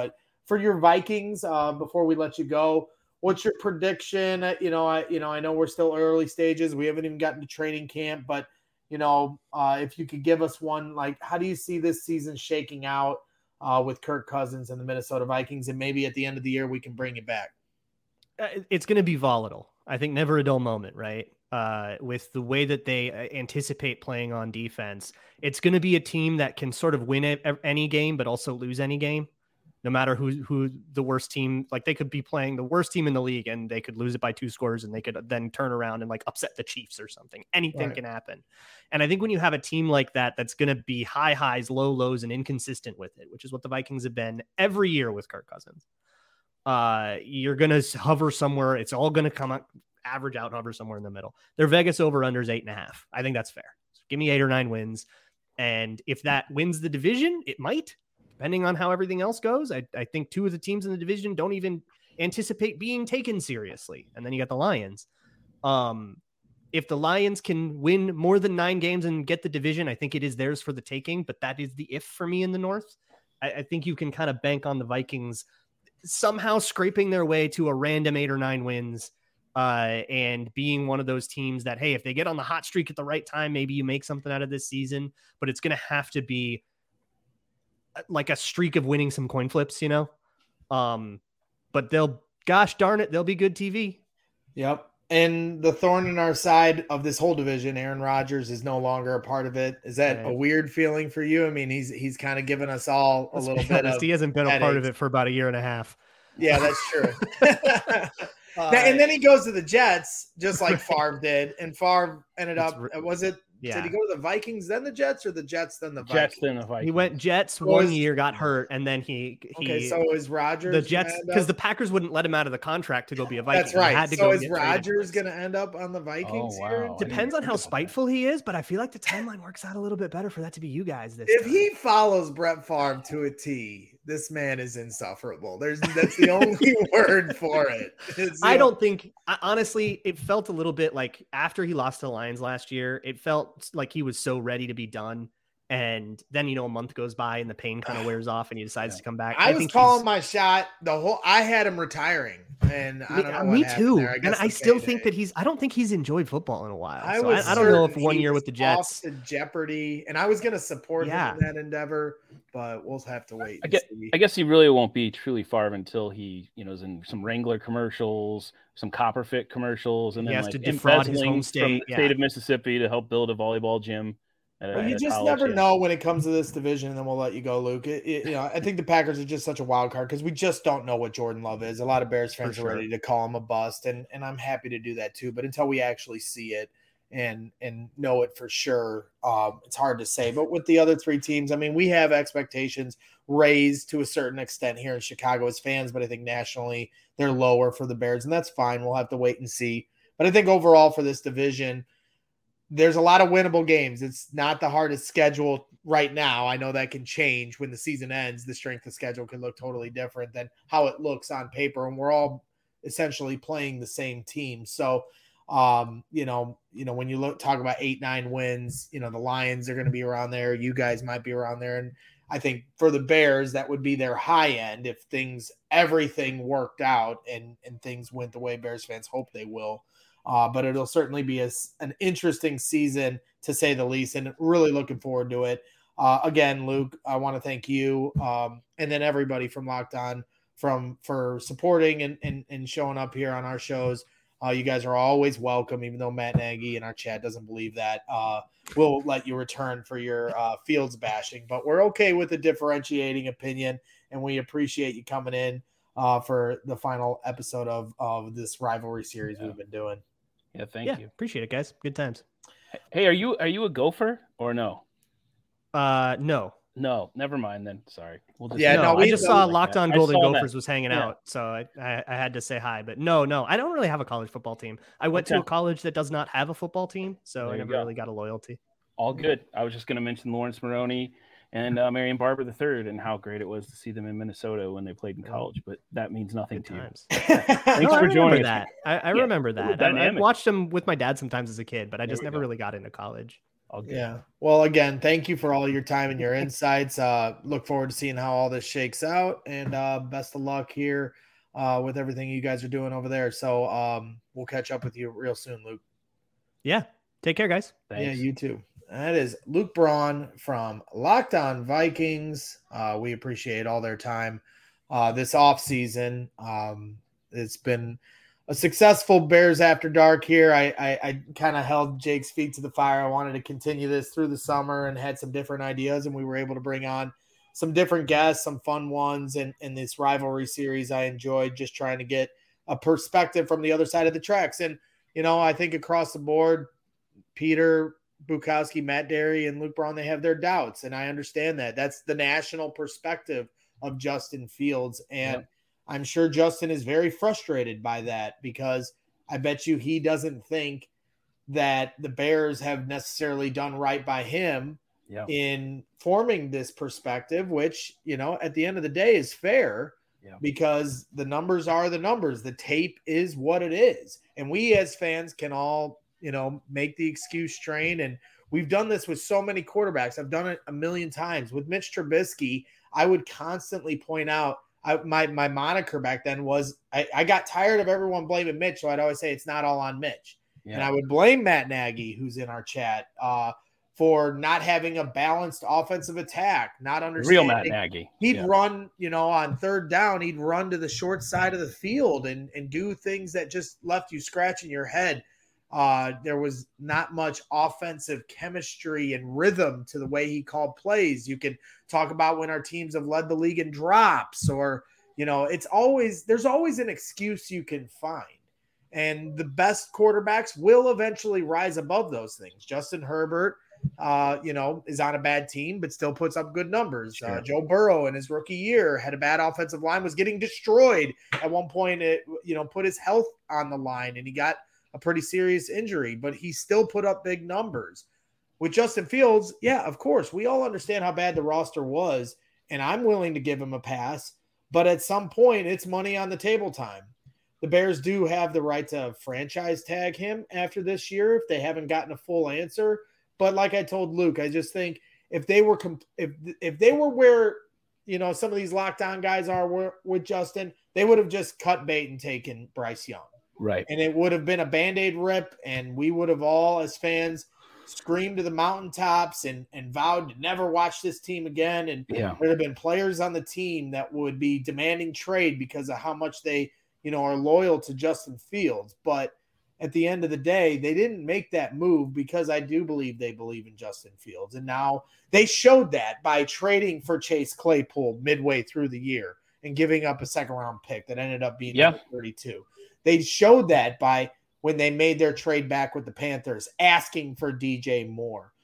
for your Vikings, before we let you go, what's your prediction? I know we're still early stages. We haven't even gotten to training camp, but if you could give us one, like, how do you see this season shaking out with Kirk Cousins and the Minnesota Vikings? And maybe at the end of the year, we can bring it back. It's going to be volatile. I think never a dull moment, right? With the way that they anticipate playing on defense, it's going to be a team that can sort of win any game, but also lose any game, no matter who the worst team. Like, they could be playing the worst team in the league and they could lose it by 2 scores, and they could then turn around and like upset the Chiefs or something. Anything can happen. And I think when you have a team like that, that's going to be high highs, low lows, and inconsistent with it, which is what the Vikings have been every year with Kirk Cousins. You're going to hover somewhere. It's all going to come out, average out, hover somewhere in the middle. Their Vegas over-under is 8.5. I think that's fair. So give me 8 or 9 wins. And if that wins the division, it might, depending on how everything else goes. I think 2 of the teams in the division don't even anticipate being taken seriously. And then you got the Lions. If the Lions can win more than 9 games and get the division, I think it is theirs for the taking, but that is the if for me in the North. I think you can kind of bank on the Vikings somehow scraping their way to a random 8 or 9 wins, and being one of those teams that, hey, if they get on the hot streak at the right time, maybe you make something out of this season, but it's going to have to be like a streak of winning some coin flips, but gosh darn it, they'll be good TV. Yep. And the thorn in our side of this whole division, Aaron Rodgers is no longer a part of it. Is that a weird feeling for you? I mean, he's kind of given us all a little bit of. He hasn't been a part of it for about 1.5 years. Yeah, that's true. And then he goes to the Jets, just like Favre did, and Favre ended up. Did he go to the Vikings, then the Jets, or the Jets, then the Vikings? Jets, then the Vikings. He went Jets 1 year, got hurt, and then he so is Rodgers the Jets, because the Packers wouldn't let him out of the contract to go be a Viking. That's right. So is Rodgers going to end up on the Vikings here? Depends on how spiteful he is, but I feel like the timeline works out a little bit better for that to be you guys this If time. he follows Brett Favre to a T, this man is insufferable. That's the only word for it. I don't think, honestly, it felt a little bit like after he lost to the Lions last year, it felt like he was so ready to be done. And then, a month goes by and the pain kind of wears off and he decides to come back. I was calling my shot. I had him retiring, and I don't know. Me too. And I still think that I don't think he's enjoyed football in a while. I don't know if 1 year with the Jets. Off to jeopardy, and I was going to support him in that endeavor, but we'll have to wait. I guess he really won't be truly Favre until he, is in some Wrangler commercials, some Copper Fit commercials, and then has to defraud his home state, from the state of Mississippi to help build a volleyball gym. You just never know when it comes to this division, and then we'll let you go, Luke. I think the Packers are just such a wild card because we just don't know what Jordan Love is. A lot of Bears fans are ready to call him a bust, and I'm happy to do that too. But until we actually see it and know it for sure, it's hard to say. But with the other 3 teams, I mean, we have expectations raised to a certain extent here in Chicago as fans, but I think nationally they're lower for the Bears, and that's fine. We'll have to wait and see. But I think overall for this division, there's a lot of winnable games. It's not the hardest schedule right now. I know that can change when the season ends. The strength of schedule can look totally different than how it looks on paper. And we're all essentially playing the same team. So, when you talk about 8-9 wins, the Lions are going to be around there. You guys might be around there. And I think for the Bears, that would be their high end if everything worked out and things went the way Bears fans hope they will. But it'll certainly be an interesting season, to say the least, and really looking forward to it. Again, Luke, I want to thank you and then everybody from Locked On for supporting and showing up here on our shows. You guys are always welcome, even though Matt Nagy in our chat doesn't believe that. We'll let you return for your Fields bashing, but we're okay with the differentiating opinion, and we appreciate you coming in for the final episode of this rivalry series we've been doing. Yeah, thank you. Appreciate it, guys. Good times. Hey, are you a Gopher or no? No, never mind then. Sorry. I just saw Locked On Golden Gophers was hanging out, so I had to say hi. But no, I don't really have a college football team. I went to a college that does not have a football team, so I never really got a loyalty. All good. I was just going to mention Lawrence Maroney and Marion Barber III and how great it was to see them in Minnesota when they played in college, but that means nothing to you. Thanks for joining that. I remember that. I watched them with my dad sometimes as a kid, but I just never really got into college. All good. Yeah. Well, again, thank you for all your time and your insights. Look forward to seeing how all this shakes out, and best of luck here with everything you guys are doing over there. So we'll catch up with you real soon, Luke. Yeah. Take care, guys. Thanks. Yeah, you too. That is Luke Braun from Locked On Vikings. We appreciate all their time this off season. It's been a successful Bears After Dark here. I kind of held Jake's feet to the fire. I wanted to continue this through the summer and had some different ideas, and we were able to bring on some different guests, some fun ones, and in this rivalry series I enjoyed just trying to get a perspective from the other side of the tracks. And, I think across the board, Peter Bukowski, Matt Derry, and Luke Braun, they have their doubts, and I understand that. That's the national perspective of Justin Fields, and I'm sure Justin is very frustrated by that because I bet you he doesn't think that the Bears have necessarily done right by him in forming this perspective, which, at the end of the day is fair because the numbers are the numbers. The tape is what it is. And we as fans can all, make the excuse train. And we've done this with so many quarterbacks. I've done it a million times. With Mitch Trubisky, I would constantly point out, my moniker back then was I got tired of everyone blaming Mitch, so I'd always say it's not all on Mitch. Yeah. And I would blame Matt Nagy, who's in our chat, for not having a balanced offensive attack, not understanding. Real Matt Nagy. He'd run, on third down, he'd run to the short side of the field and do things that just left you scratching your head. There was not much offensive chemistry and rhythm to the way he called plays. You can talk about when our teams have led the league in drops or, there's always an excuse you can find. And the best quarterbacks will eventually rise above those things. Justin Herbert, is on a bad team, but still puts up good numbers. Sure. Joe Burrow in his rookie year had a bad offensive line, was getting destroyed at one point. It, put his health on the line and he got a pretty serious injury, but he still put up big numbers. With Justin Fields, yeah, of course, we all understand how bad the roster was, and I'm willing to give him a pass, but at some point, it's money on the table time. The Bears do have the right to franchise tag him after this year if they haven't gotten a full answer. But like I told Luke, I just think if they were if they were where some of these lockdown guys are with Justin, they would have just cut bait and taken Bryce Young. Right. And it would have been a Band-Aid rip, and we would have all, as fans, screamed to the mountaintops and vowed to never watch this team again. And there would have been players on the team that would be demanding trade because of how much they, are loyal to Justin Fields. But at the end of the day, they didn't make that move because I do believe they believe in Justin Fields. And now they showed that by trading for Chase Claypool midway through the year and giving up a second-round pick that ended up being number 32. They showed that by when they made their trade back with the Panthers, asking for DJ Moore.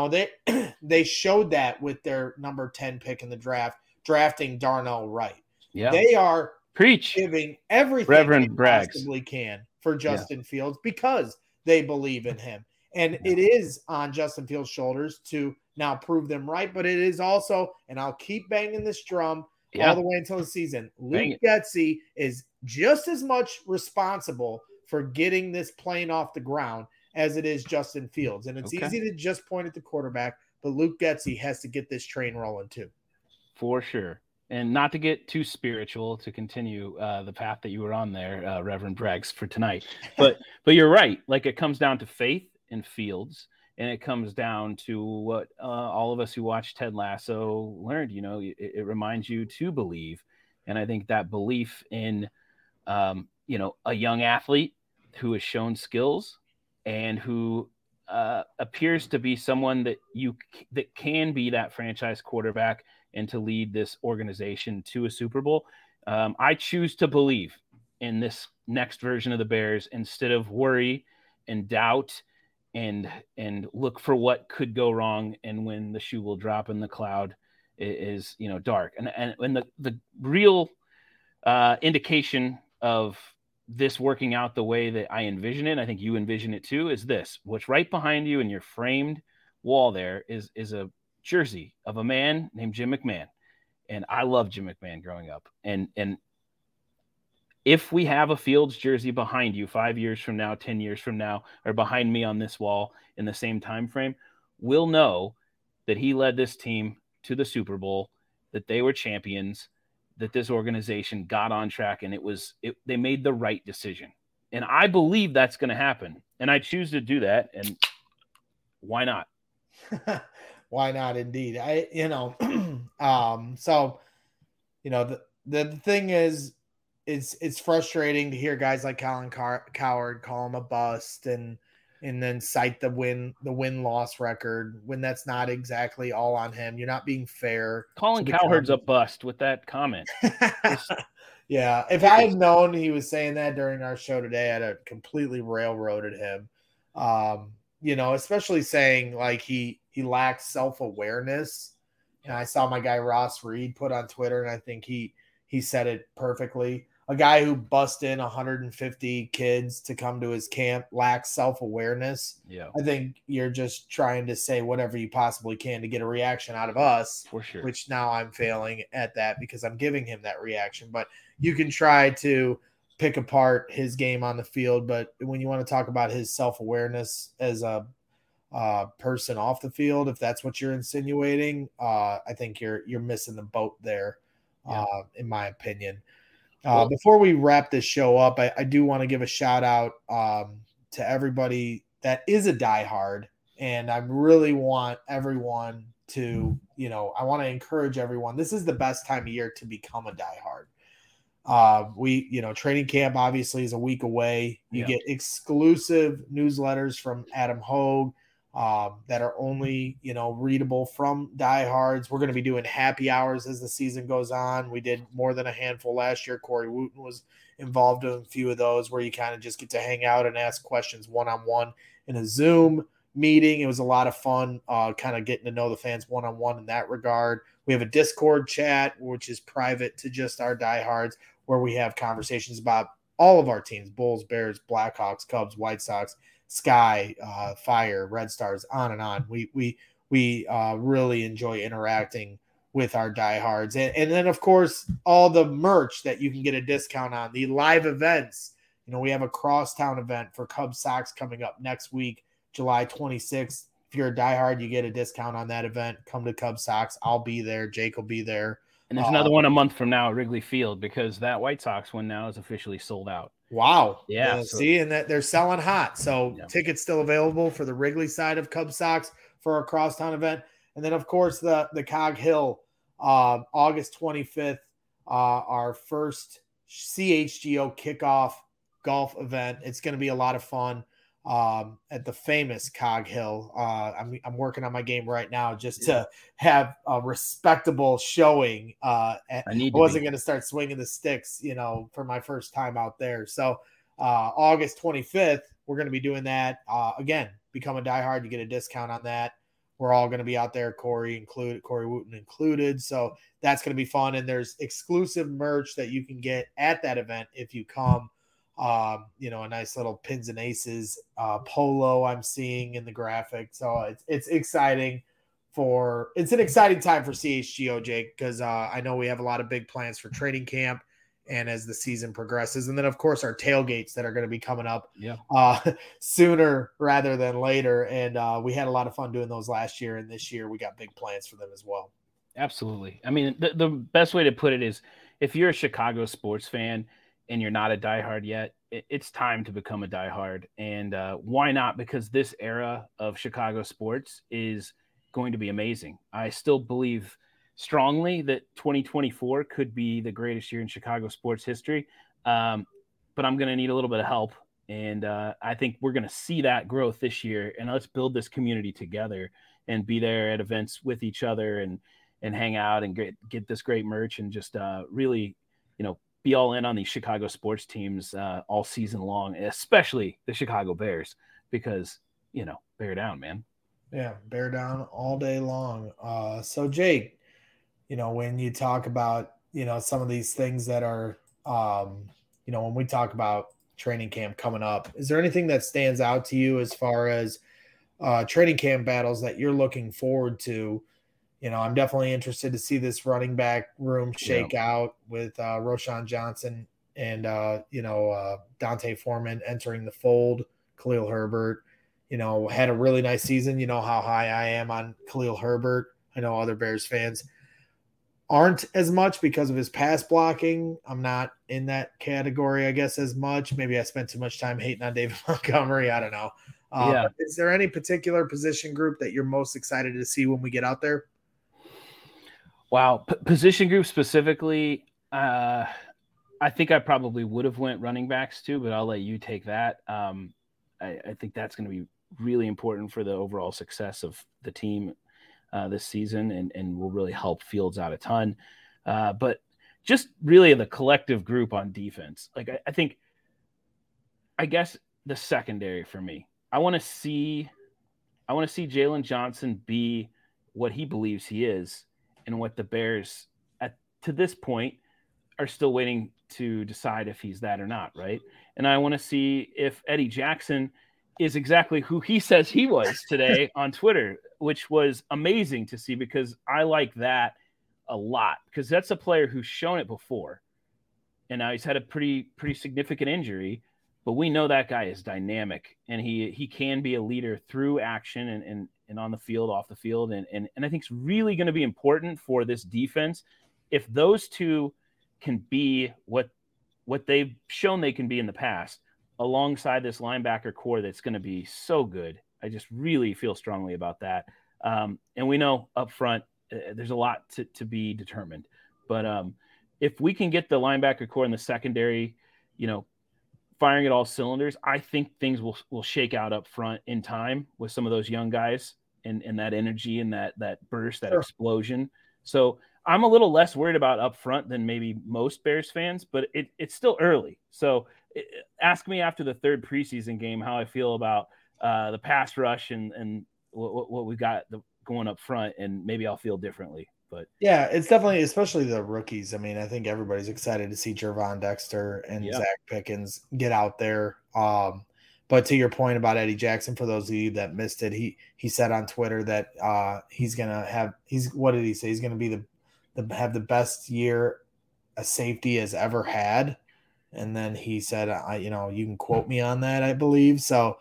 They showed that with their number 10 pick in the draft, drafting Darnell Wright. Yeah. They are giving everything Reverend they possibly can for Justin Fields because they believe in him. And it is on Justin Fields' shoulders to now prove them right, but it is also, and I'll keep banging this drum all the way until the season, Luke Getsy is just as much responsible for getting this plane off the ground as it is Justin Fields. And it's easy to just point at the quarterback, but Luke Getsy has to get this train rolling too. For sure. And not to get too spiritual, to continue the path that you were on there, Reverend Braggs, for tonight. But you're right. Like, it comes down to faith in Fields, and it comes down to what all of us who watched Ted Lasso learned. It reminds you to believe. And I think that belief in, a young athlete who has shown skills and who appears to be someone that can be that franchise quarterback and to lead this organization to a Super Bowl. I choose to believe in this next version of the Bears instead of worry and doubt and look for what could go wrong and when the shoe will drop and the cloud is dark. And when the real indication of this working out the way that I envision it, I think you envision it too, is this. What's right behind you in your framed wall there is a jersey of a man named Jim McMahon. And I love Jim McMahon growing up. And if we have a Fields jersey behind you 5 years from now, 10 years from now, or behind me on this wall in the same time frame, will know that he led this team to the Super Bowl, that they were champions, that this organization got on track, and they made the right decision. And I believe that's going to happen. And I choose to do that. And why not? Why not? Indeed. So, the thing is, it's frustrating to hear guys like Colin Cowherd call him a bust and then cite the win-loss record when that's not exactly all on him. You're not being fair. Colin Cowherd's a bust with that comment. Yeah. If I had known he was saying that during our show today, I'd have completely railroaded him. Especially saying like he lacks self-awareness. And I saw my guy Ross Reed put on Twitter, and I think he said it perfectly. A guy who bussed in 150 kids to come to his camp lacks self-awareness. Yeah. I think you're just trying to say whatever you possibly can to get a reaction out of us. For sure. Which now I'm failing at that because I'm giving him that reaction. But you can try to pick apart his game on the field. But when you want to talk about his self-awareness as a person off the field, if that's what you're insinuating, I think you're missing the boat there, in my opinion. Before we wrap this show up, I do want to give a shout out to everybody that is a diehard, and I really want everyone to, I want to encourage everyone. This is the best time of year to become a diehard. Training camp obviously is a week away. You get exclusive newsletters from Adam Hogue that are only, readable from diehards. We're going to be doing happy hours as the season goes on. We did more than a handful last year. Corey Wooten was involved in a few of those where you kind of just get to hang out and ask questions one-on-one in a Zoom meeting. It was a lot of fun, kind of getting to know the fans one-on-one in that regard. We have a Discord chat, which is private to just our diehards, where we have conversations about all of our teams: Bulls, Bears, Blackhawks, Cubs, White Sox, Sky, Fire, Red Stars, on and on. We really enjoy interacting with our diehards. And then, of course, all the merch that you can get a discount on, the live events. We have a crosstown event for Cubs Sox coming up next week, July 26th. If you're a diehard, you get a discount on that event. Come to Cubs Sox. I'll be there. Jake will be there. And there's another one a month from now at Wrigley Field, because that White Sox one now is officially sold out. Wow. Yeah. See, and that they're selling hot. So tickets still available for the Wrigley side of Cubs Sox for our crosstown event. And then, of course, the Cog Hill, August 25th, our first CHGO kickoff golf event. It's going to be a lot of fun. At the famous Cog Hill. I'm working on my game right now just to have a respectable showing. I wasn't going to start swinging the sticks, for my first time out there. So August 25th, we're going to be doing that. Again, become a diehard, you get a discount on that. We're all going to be out there, Corey Wooten included. So that's going to be fun. And there's exclusive merch that you can get at that event if you come. A nice little Pins and Aces polo I'm seeing in the graphic. So it's exciting it's an exciting time for CHGO, Jake, because I know we have a lot of big plans for training camp and as the season progresses. And then, of course, our tailgates that are going to be coming up sooner rather than later. And we had a lot of fun doing those last year. And this year we got big plans for them as well. Absolutely. I mean, the best way to put it is, if you're a Chicago sports fan and you're not a diehard yet, it's time to become a diehard. And why not? Because this era of Chicago sports is going to be amazing. I still believe strongly that 2024 could be the greatest year in Chicago sports history. But I'm going to need a little bit of help. And I think we're going to see that growth this year. And let's build this community together and be there at events with each other and hang out and get this great merch and just really, be all in on these Chicago sports teams all season long, especially the Chicago Bears, because, bear down, man. Yeah, bear down all day long. So, Jake, when you talk about, some of these things that are, when we talk about training camp coming up, is there anything that stands out to you as far as training camp battles that you're looking forward to? I'm definitely interested to see this running back room shake out with Roschon Johnson and, Dante Foreman entering the fold, Khalil Herbert. had a really nice season. You know how high I am on Khalil Herbert. I know other Bears fans aren't as much because of his pass blocking. I'm not in that category, I guess, as much. Maybe I spent too much time hating on David Montgomery. I don't know. But is there any particular position group that you're most excited to see when we get out there? Wow. Position group specifically, I think I probably would have went running backs too, but I'll let you take that. I think that's going to be really important for the overall success of the team this season and will really help Fields out a ton. But just really the collective group on defense. Like I guess the secondary for me, I want to see Jalen Johnson be what he believes he is and what the Bears to this point are still waiting to decide if he's that or not. Right. And I want to see if Eddie Jackson is exactly who he says he was today on Twitter, which was amazing to see because I like that a lot because that's a player who's shown it before. And now he's had a pretty significant injury, but we know that guy is dynamic and he can be a leader through action and on the field, off the field. And I think it's really going to be important for this defense. If those two can be what they've shown they can be in the past, alongside this linebacker core that's going to be so good. I just really feel strongly about that. And we know up front, there's a lot to be determined. But if we can get the linebacker core in the secondary, firing at all cylinders, I think things will shake out up front in time with some of those young guys and that energy and that burst, that explosion. So I'm a little less worried about up front than maybe most Bears fans, but it's still early. So ask me after the third preseason game how I feel about the pass rush and what we got going up front, and maybe I'll feel differently. But yeah, it's definitely, especially the rookies. I mean, I think everybody's excited to see Gervon Dexter and Zach Pickens get out there. But to your point about Eddie Jackson, for those of you that missed it, he said on Twitter that what did he say? He's going to be have the best year a safety has ever had. And then he said, you can quote me on that, I believe. So,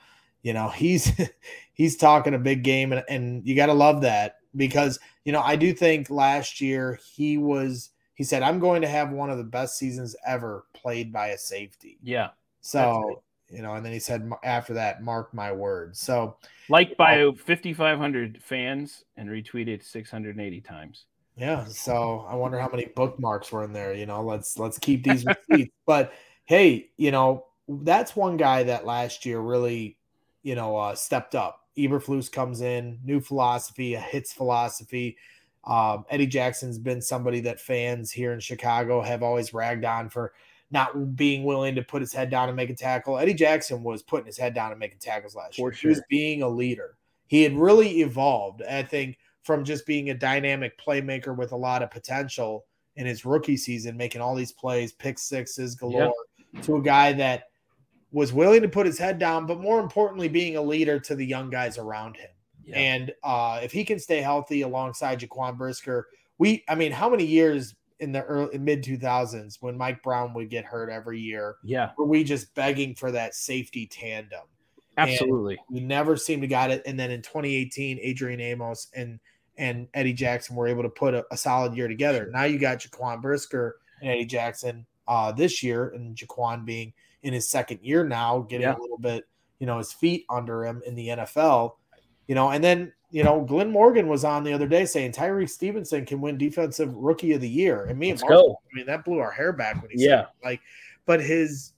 he's talking a big game and you got to love that because, I do think last year he said, I'm going to have one of the best seasons ever played by a safety. Yeah. So, and then he said after that, mark my words. So liked by 5,500 fans and retweeted 680 times. Yeah. So I wonder how many bookmarks were in there. Let's keep these receipts. But hey, that's one guy that last year really, stepped up. Eberflus comes in, new philosophy, a hits philosophy. Eddie Jackson's been somebody that fans here in Chicago have always ragged on for not being willing to put his head down and make a tackle. Eddie Jackson was putting his head down and making tackles last year. Sure. He was being a leader. He had really evolved, I think, from just being a dynamic playmaker with a lot of potential in his rookie season, making all these plays, pick sixes galore, to a guy that was willing to put his head down, but more importantly, being a leader to the young guys around him. Yeah. And if he can stay healthy alongside Jaquan Brisker, how many years in the mid 2000s when Mike Brown would get hurt every year? Yeah. Were we just begging for that safety tandem? Absolutely. And we never seemed to got it. And then in 2018, Adrian Amos and Eddie Jackson were able to put a solid year together. Sure. Now you got Jaquan Brisker and Eddie Jackson this year, and Jaquan being in his second year now, getting a little bit, his feet under him in the NFL, and then, Glenn Morgan was on the other day saying Tyree Stevenson can win defensive rookie of the year. And me and Mark, that blew our hair back when he said it. But his,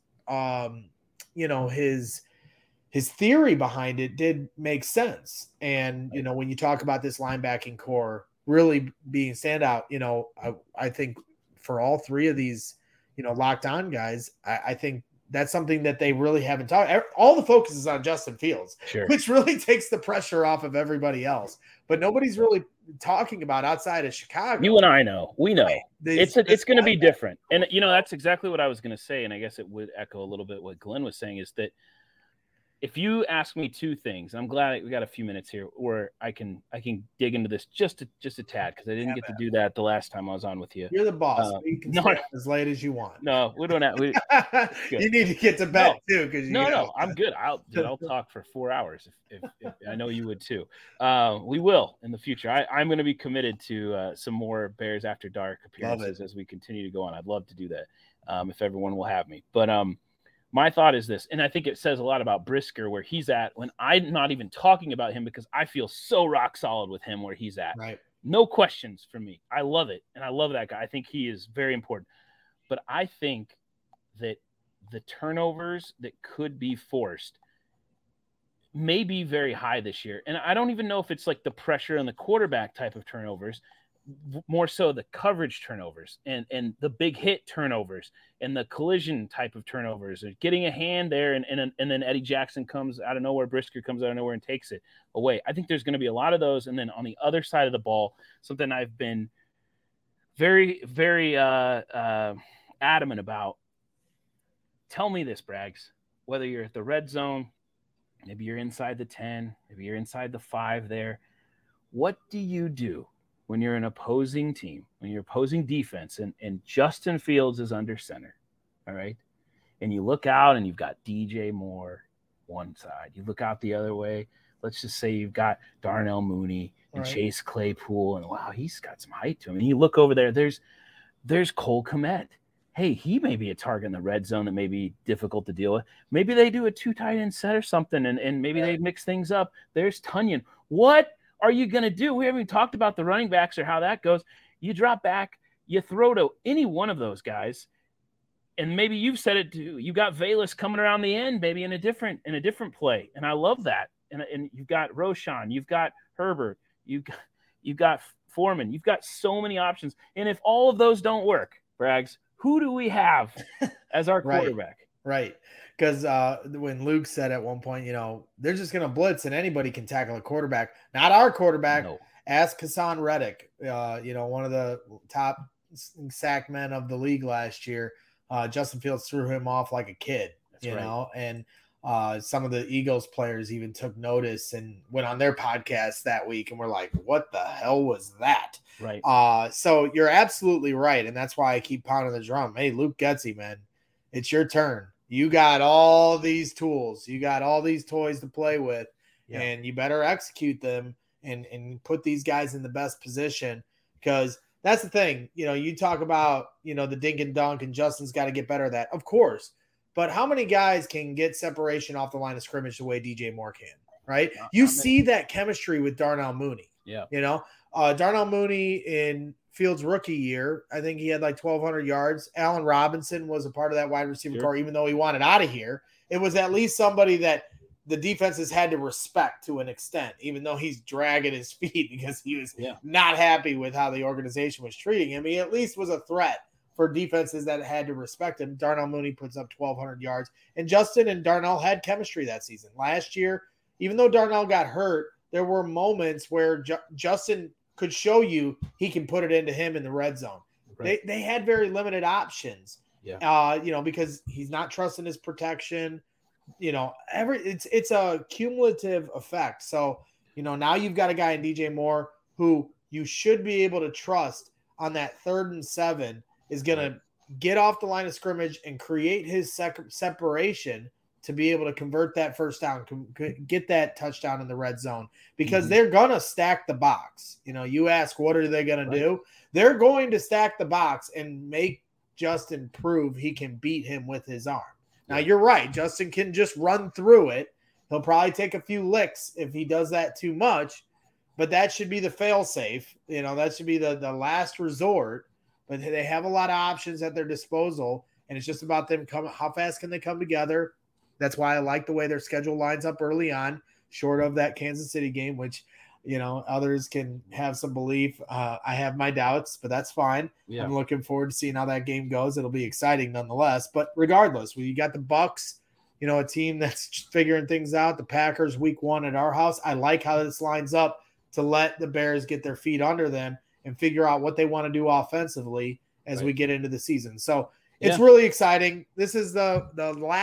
his theory behind it did make sense. And, when you talk about this linebacking core really being standout, I think for all three of these, locked on guys, I think that's something that they really haven't talked. All the focus is on Justin Fields, which really takes the pressure off of everybody else. But nobody's really talking about outside of Chicago. You and I know. We know. It's going to be different. And, that's exactly what I was going to say. And I guess it would echo a little bit what Glenn was saying is that if you ask me two things, I'm glad we got a few minutes here where I can dig into this just a tad, because I didn't get to do that the last time I was on with you. You're the boss. You can stay up as late as you want. No, we don't have. You need to get to bed too, because no, I'm good. I'll talk for 4 hours if I know you would too. We will in the future. I'm going to be committed to some more Bears After Dark appearances as we continue to go on. I'd love to do that if everyone will have me. But my thought is this, and I think it says a lot about Brisker where he's at when I'm not even talking about him, because I feel so rock solid with him where he's at. Right. No questions for me. I love it. And I love that guy. I think he is very important. But I think that the turnovers that could be forced may be very high this year. And I don't even know if it's like the pressure on the quarterback type of turnovers, more so the coverage turnovers and the big hit turnovers and the collision type of turnovers, or getting a hand there and then Eddie Jackson comes out of nowhere, Brisker comes out of nowhere and takes it away. I think there's going to be a lot of those. And then on the other side of the ball, something I've been very, very adamant about. Tell me this, Braggs, whether you're at the red zone, maybe you're inside the 10, maybe you're inside the 5 there. What do you do when you're an opposing team, when you're opposing defense, and Justin Fields is under center, all right? And you look out and you've got DJ Moore one side. You look out the other way. Let's just say you've got Darnell Mooney and Chase Claypool, and wow, he's got some height to him. And you look over there, there's Cole Kmet. Hey, he may be a target in the red zone that may be difficult to deal with. Maybe they do a 2 tight end set or something, and maybe they mix things up. There's Tunyon. What are you going to do? We haven't even talked about the running backs or how that goes. You drop back, you throw to any one of those guys, and maybe you've said it too. You got Velus coming around the end, maybe in a different play, and I love that. And you've got Roshan, you've got Herbert, you've got Foreman, you've got so many options. And if all of those don't work, Braggs, who do we have as our quarterback? Right. Because when Luke said at one point, they're just going to blitz and anybody can tackle a quarterback. Not our quarterback. No. Ask Hassan Reddick, one of the top sack men of the league last year. Justin Fields threw him off like a kid, know, and some of the Eagles players even took notice and went on their podcast that week and were like, what the hell was that? Right. So you're absolutely right. And that's why I keep pounding the drum. Hey, Luke Getsy, man, it's your turn. You got all these tools. You got all these toys to play with, and you better execute them and put these guys in the best position, because that's the thing. You talk about, the dink and dunk, and Justin's got to get better at that. Of course. But how many guys can get separation off the line of scrimmage the way DJ Moore can, right? You see that chemistry with Darnell Mooney. Yeah. Darnell Mooney in Fields' rookie year, I think he had like 1,200 yards. Allen Robinson was a part of that wide receiver core, even though he wanted out of here. It was at least somebody that the defenses had to respect to an extent, even though he's dragging his feet because he was not happy with how the organization was treating him. He at least was a threat for defenses that had to respect him. Darnell Mooney puts up 1,200 yards. And Justin and Darnell had chemistry that season. Last year, even though Darnell got hurt, there were moments where Justin could show you he can put it into him in the red zone. Right. They had very limited options, because he's not trusting his protection. It's a cumulative effect. So, now you've got a guy in DJ Moore who you should be able to trust on that 3rd and 7 is going to get off the line of scrimmage and create his separation to be able to convert that first down, get that touchdown in the red zone, because they're going to stack the box. You ask, what are they going to do? They're going to stack the box and make Justin prove he can beat him with his arm. Now, you're right. Justin can just run through it. He'll probably take a few licks if he does that too much, but that should be the fail-safe. That should be the last resort. But they have a lot of options at their disposal, and it's just about them how fast can they come together. That's why I like the way their schedule lines up early on, short of that Kansas City game, which, others can have some belief. I have my doubts, but that's fine. Yeah. I'm looking forward to seeing how that game goes. It'll be exciting nonetheless. But regardless, you got the Bucs, a team that's figuring things out. The Packers week 1 at our house. I like how this lines up to let the Bears get their feet under them and figure out what they want to do offensively as we get into the season. So it's really exciting. This is the last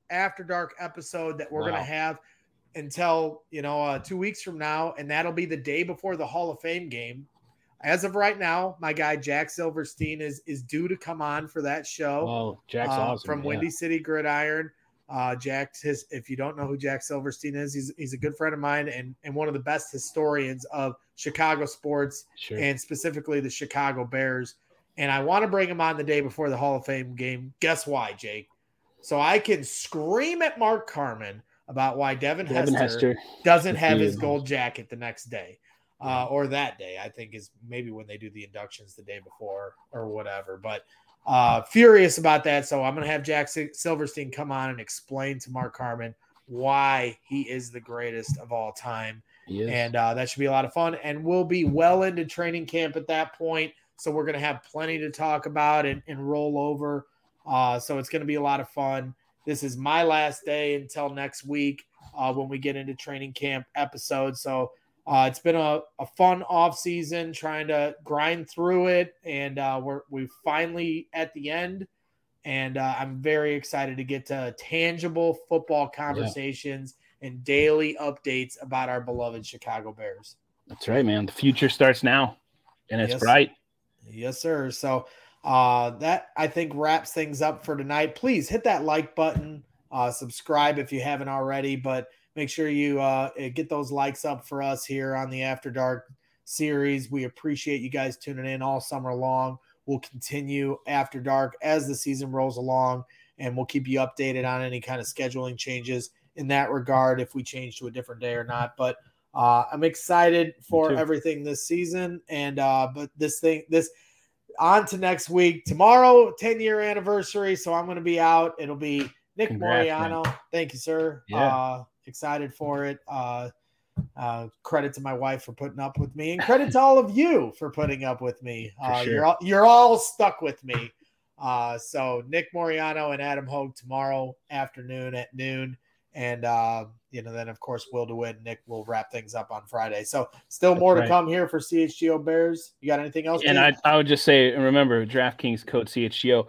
After Dark episode that we're going to have until, 2 weeks from now. And that'll be the day before the Hall of Fame game. As of right now, my guy, Jack Silverstein is due to come on for that show. Oh, Jack's awesome. From Windy City Gridiron. Jack, if you don't know who Jack Silverstein is, he's a good friend of mine and one of the best historians of Chicago sports and specifically the Chicago Bears. And I want to bring him on the day before the Hall of Fame game. Guess why, Jake? So I can scream at Mark Carman about why Devin Hester doesn't have his gold jacket the next day or that day. I think is maybe when they do the inductions the day before or whatever. But furious about that. So I'm going to have Jack Silverstein come on and explain to Mark Carman why he is the greatest of all time. And that should be a lot of fun. And we'll be well into training camp at that point. So we're going to have plenty to talk about and roll over. So it's going to be a lot of fun. This is my last day until next week when we get into training camp episodes. So it's been a fun off season trying to grind through it. And we're finally at the end. And I'm very excited to get to tangible football conversations and daily updates about our beloved Chicago Bears. That's right, man. The future starts now, and it's bright. Yes, sir. So that, I think, wraps things up for tonight. Please hit that like button, subscribe if you haven't already, but make sure you get those likes up for us here on the After Dark series. We appreciate you guys tuning in all summer long. We'll continue After Dark as the season rolls along, and we'll keep you updated on any kind of scheduling changes in that regard, if we change to a different day or not. But I'm excited for everything this season. And but this on to next week. Tomorrow, 10-year anniversary. So I'm going to be out. It'll be Nick Moriano. Man. Thank you, sir. Yeah. Excited for it. Credit to my wife for putting up with me, and credit to all of you for putting up with me. You're all stuck with me. So Nick Moriano and Adam Hogue tomorrow afternoon at noon. And, then, of course, Will DeWitt and Nick will wrap things up on Friday. So still more to come here for CHGO Bears. You got anything else? And I would just say, remember, DraftKings code CHGO.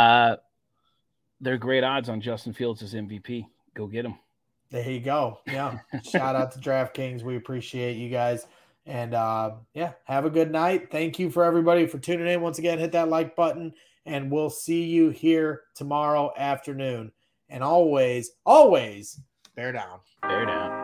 They're great odds on Justin Fields as MVP. Go get him. There you go. Yeah. Shout out to DraftKings. We appreciate you guys. And, have a good night. Thank you for everybody for tuning in. Once again, hit that like button, and we'll see you here tomorrow afternoon. And always, bear down. Bear down.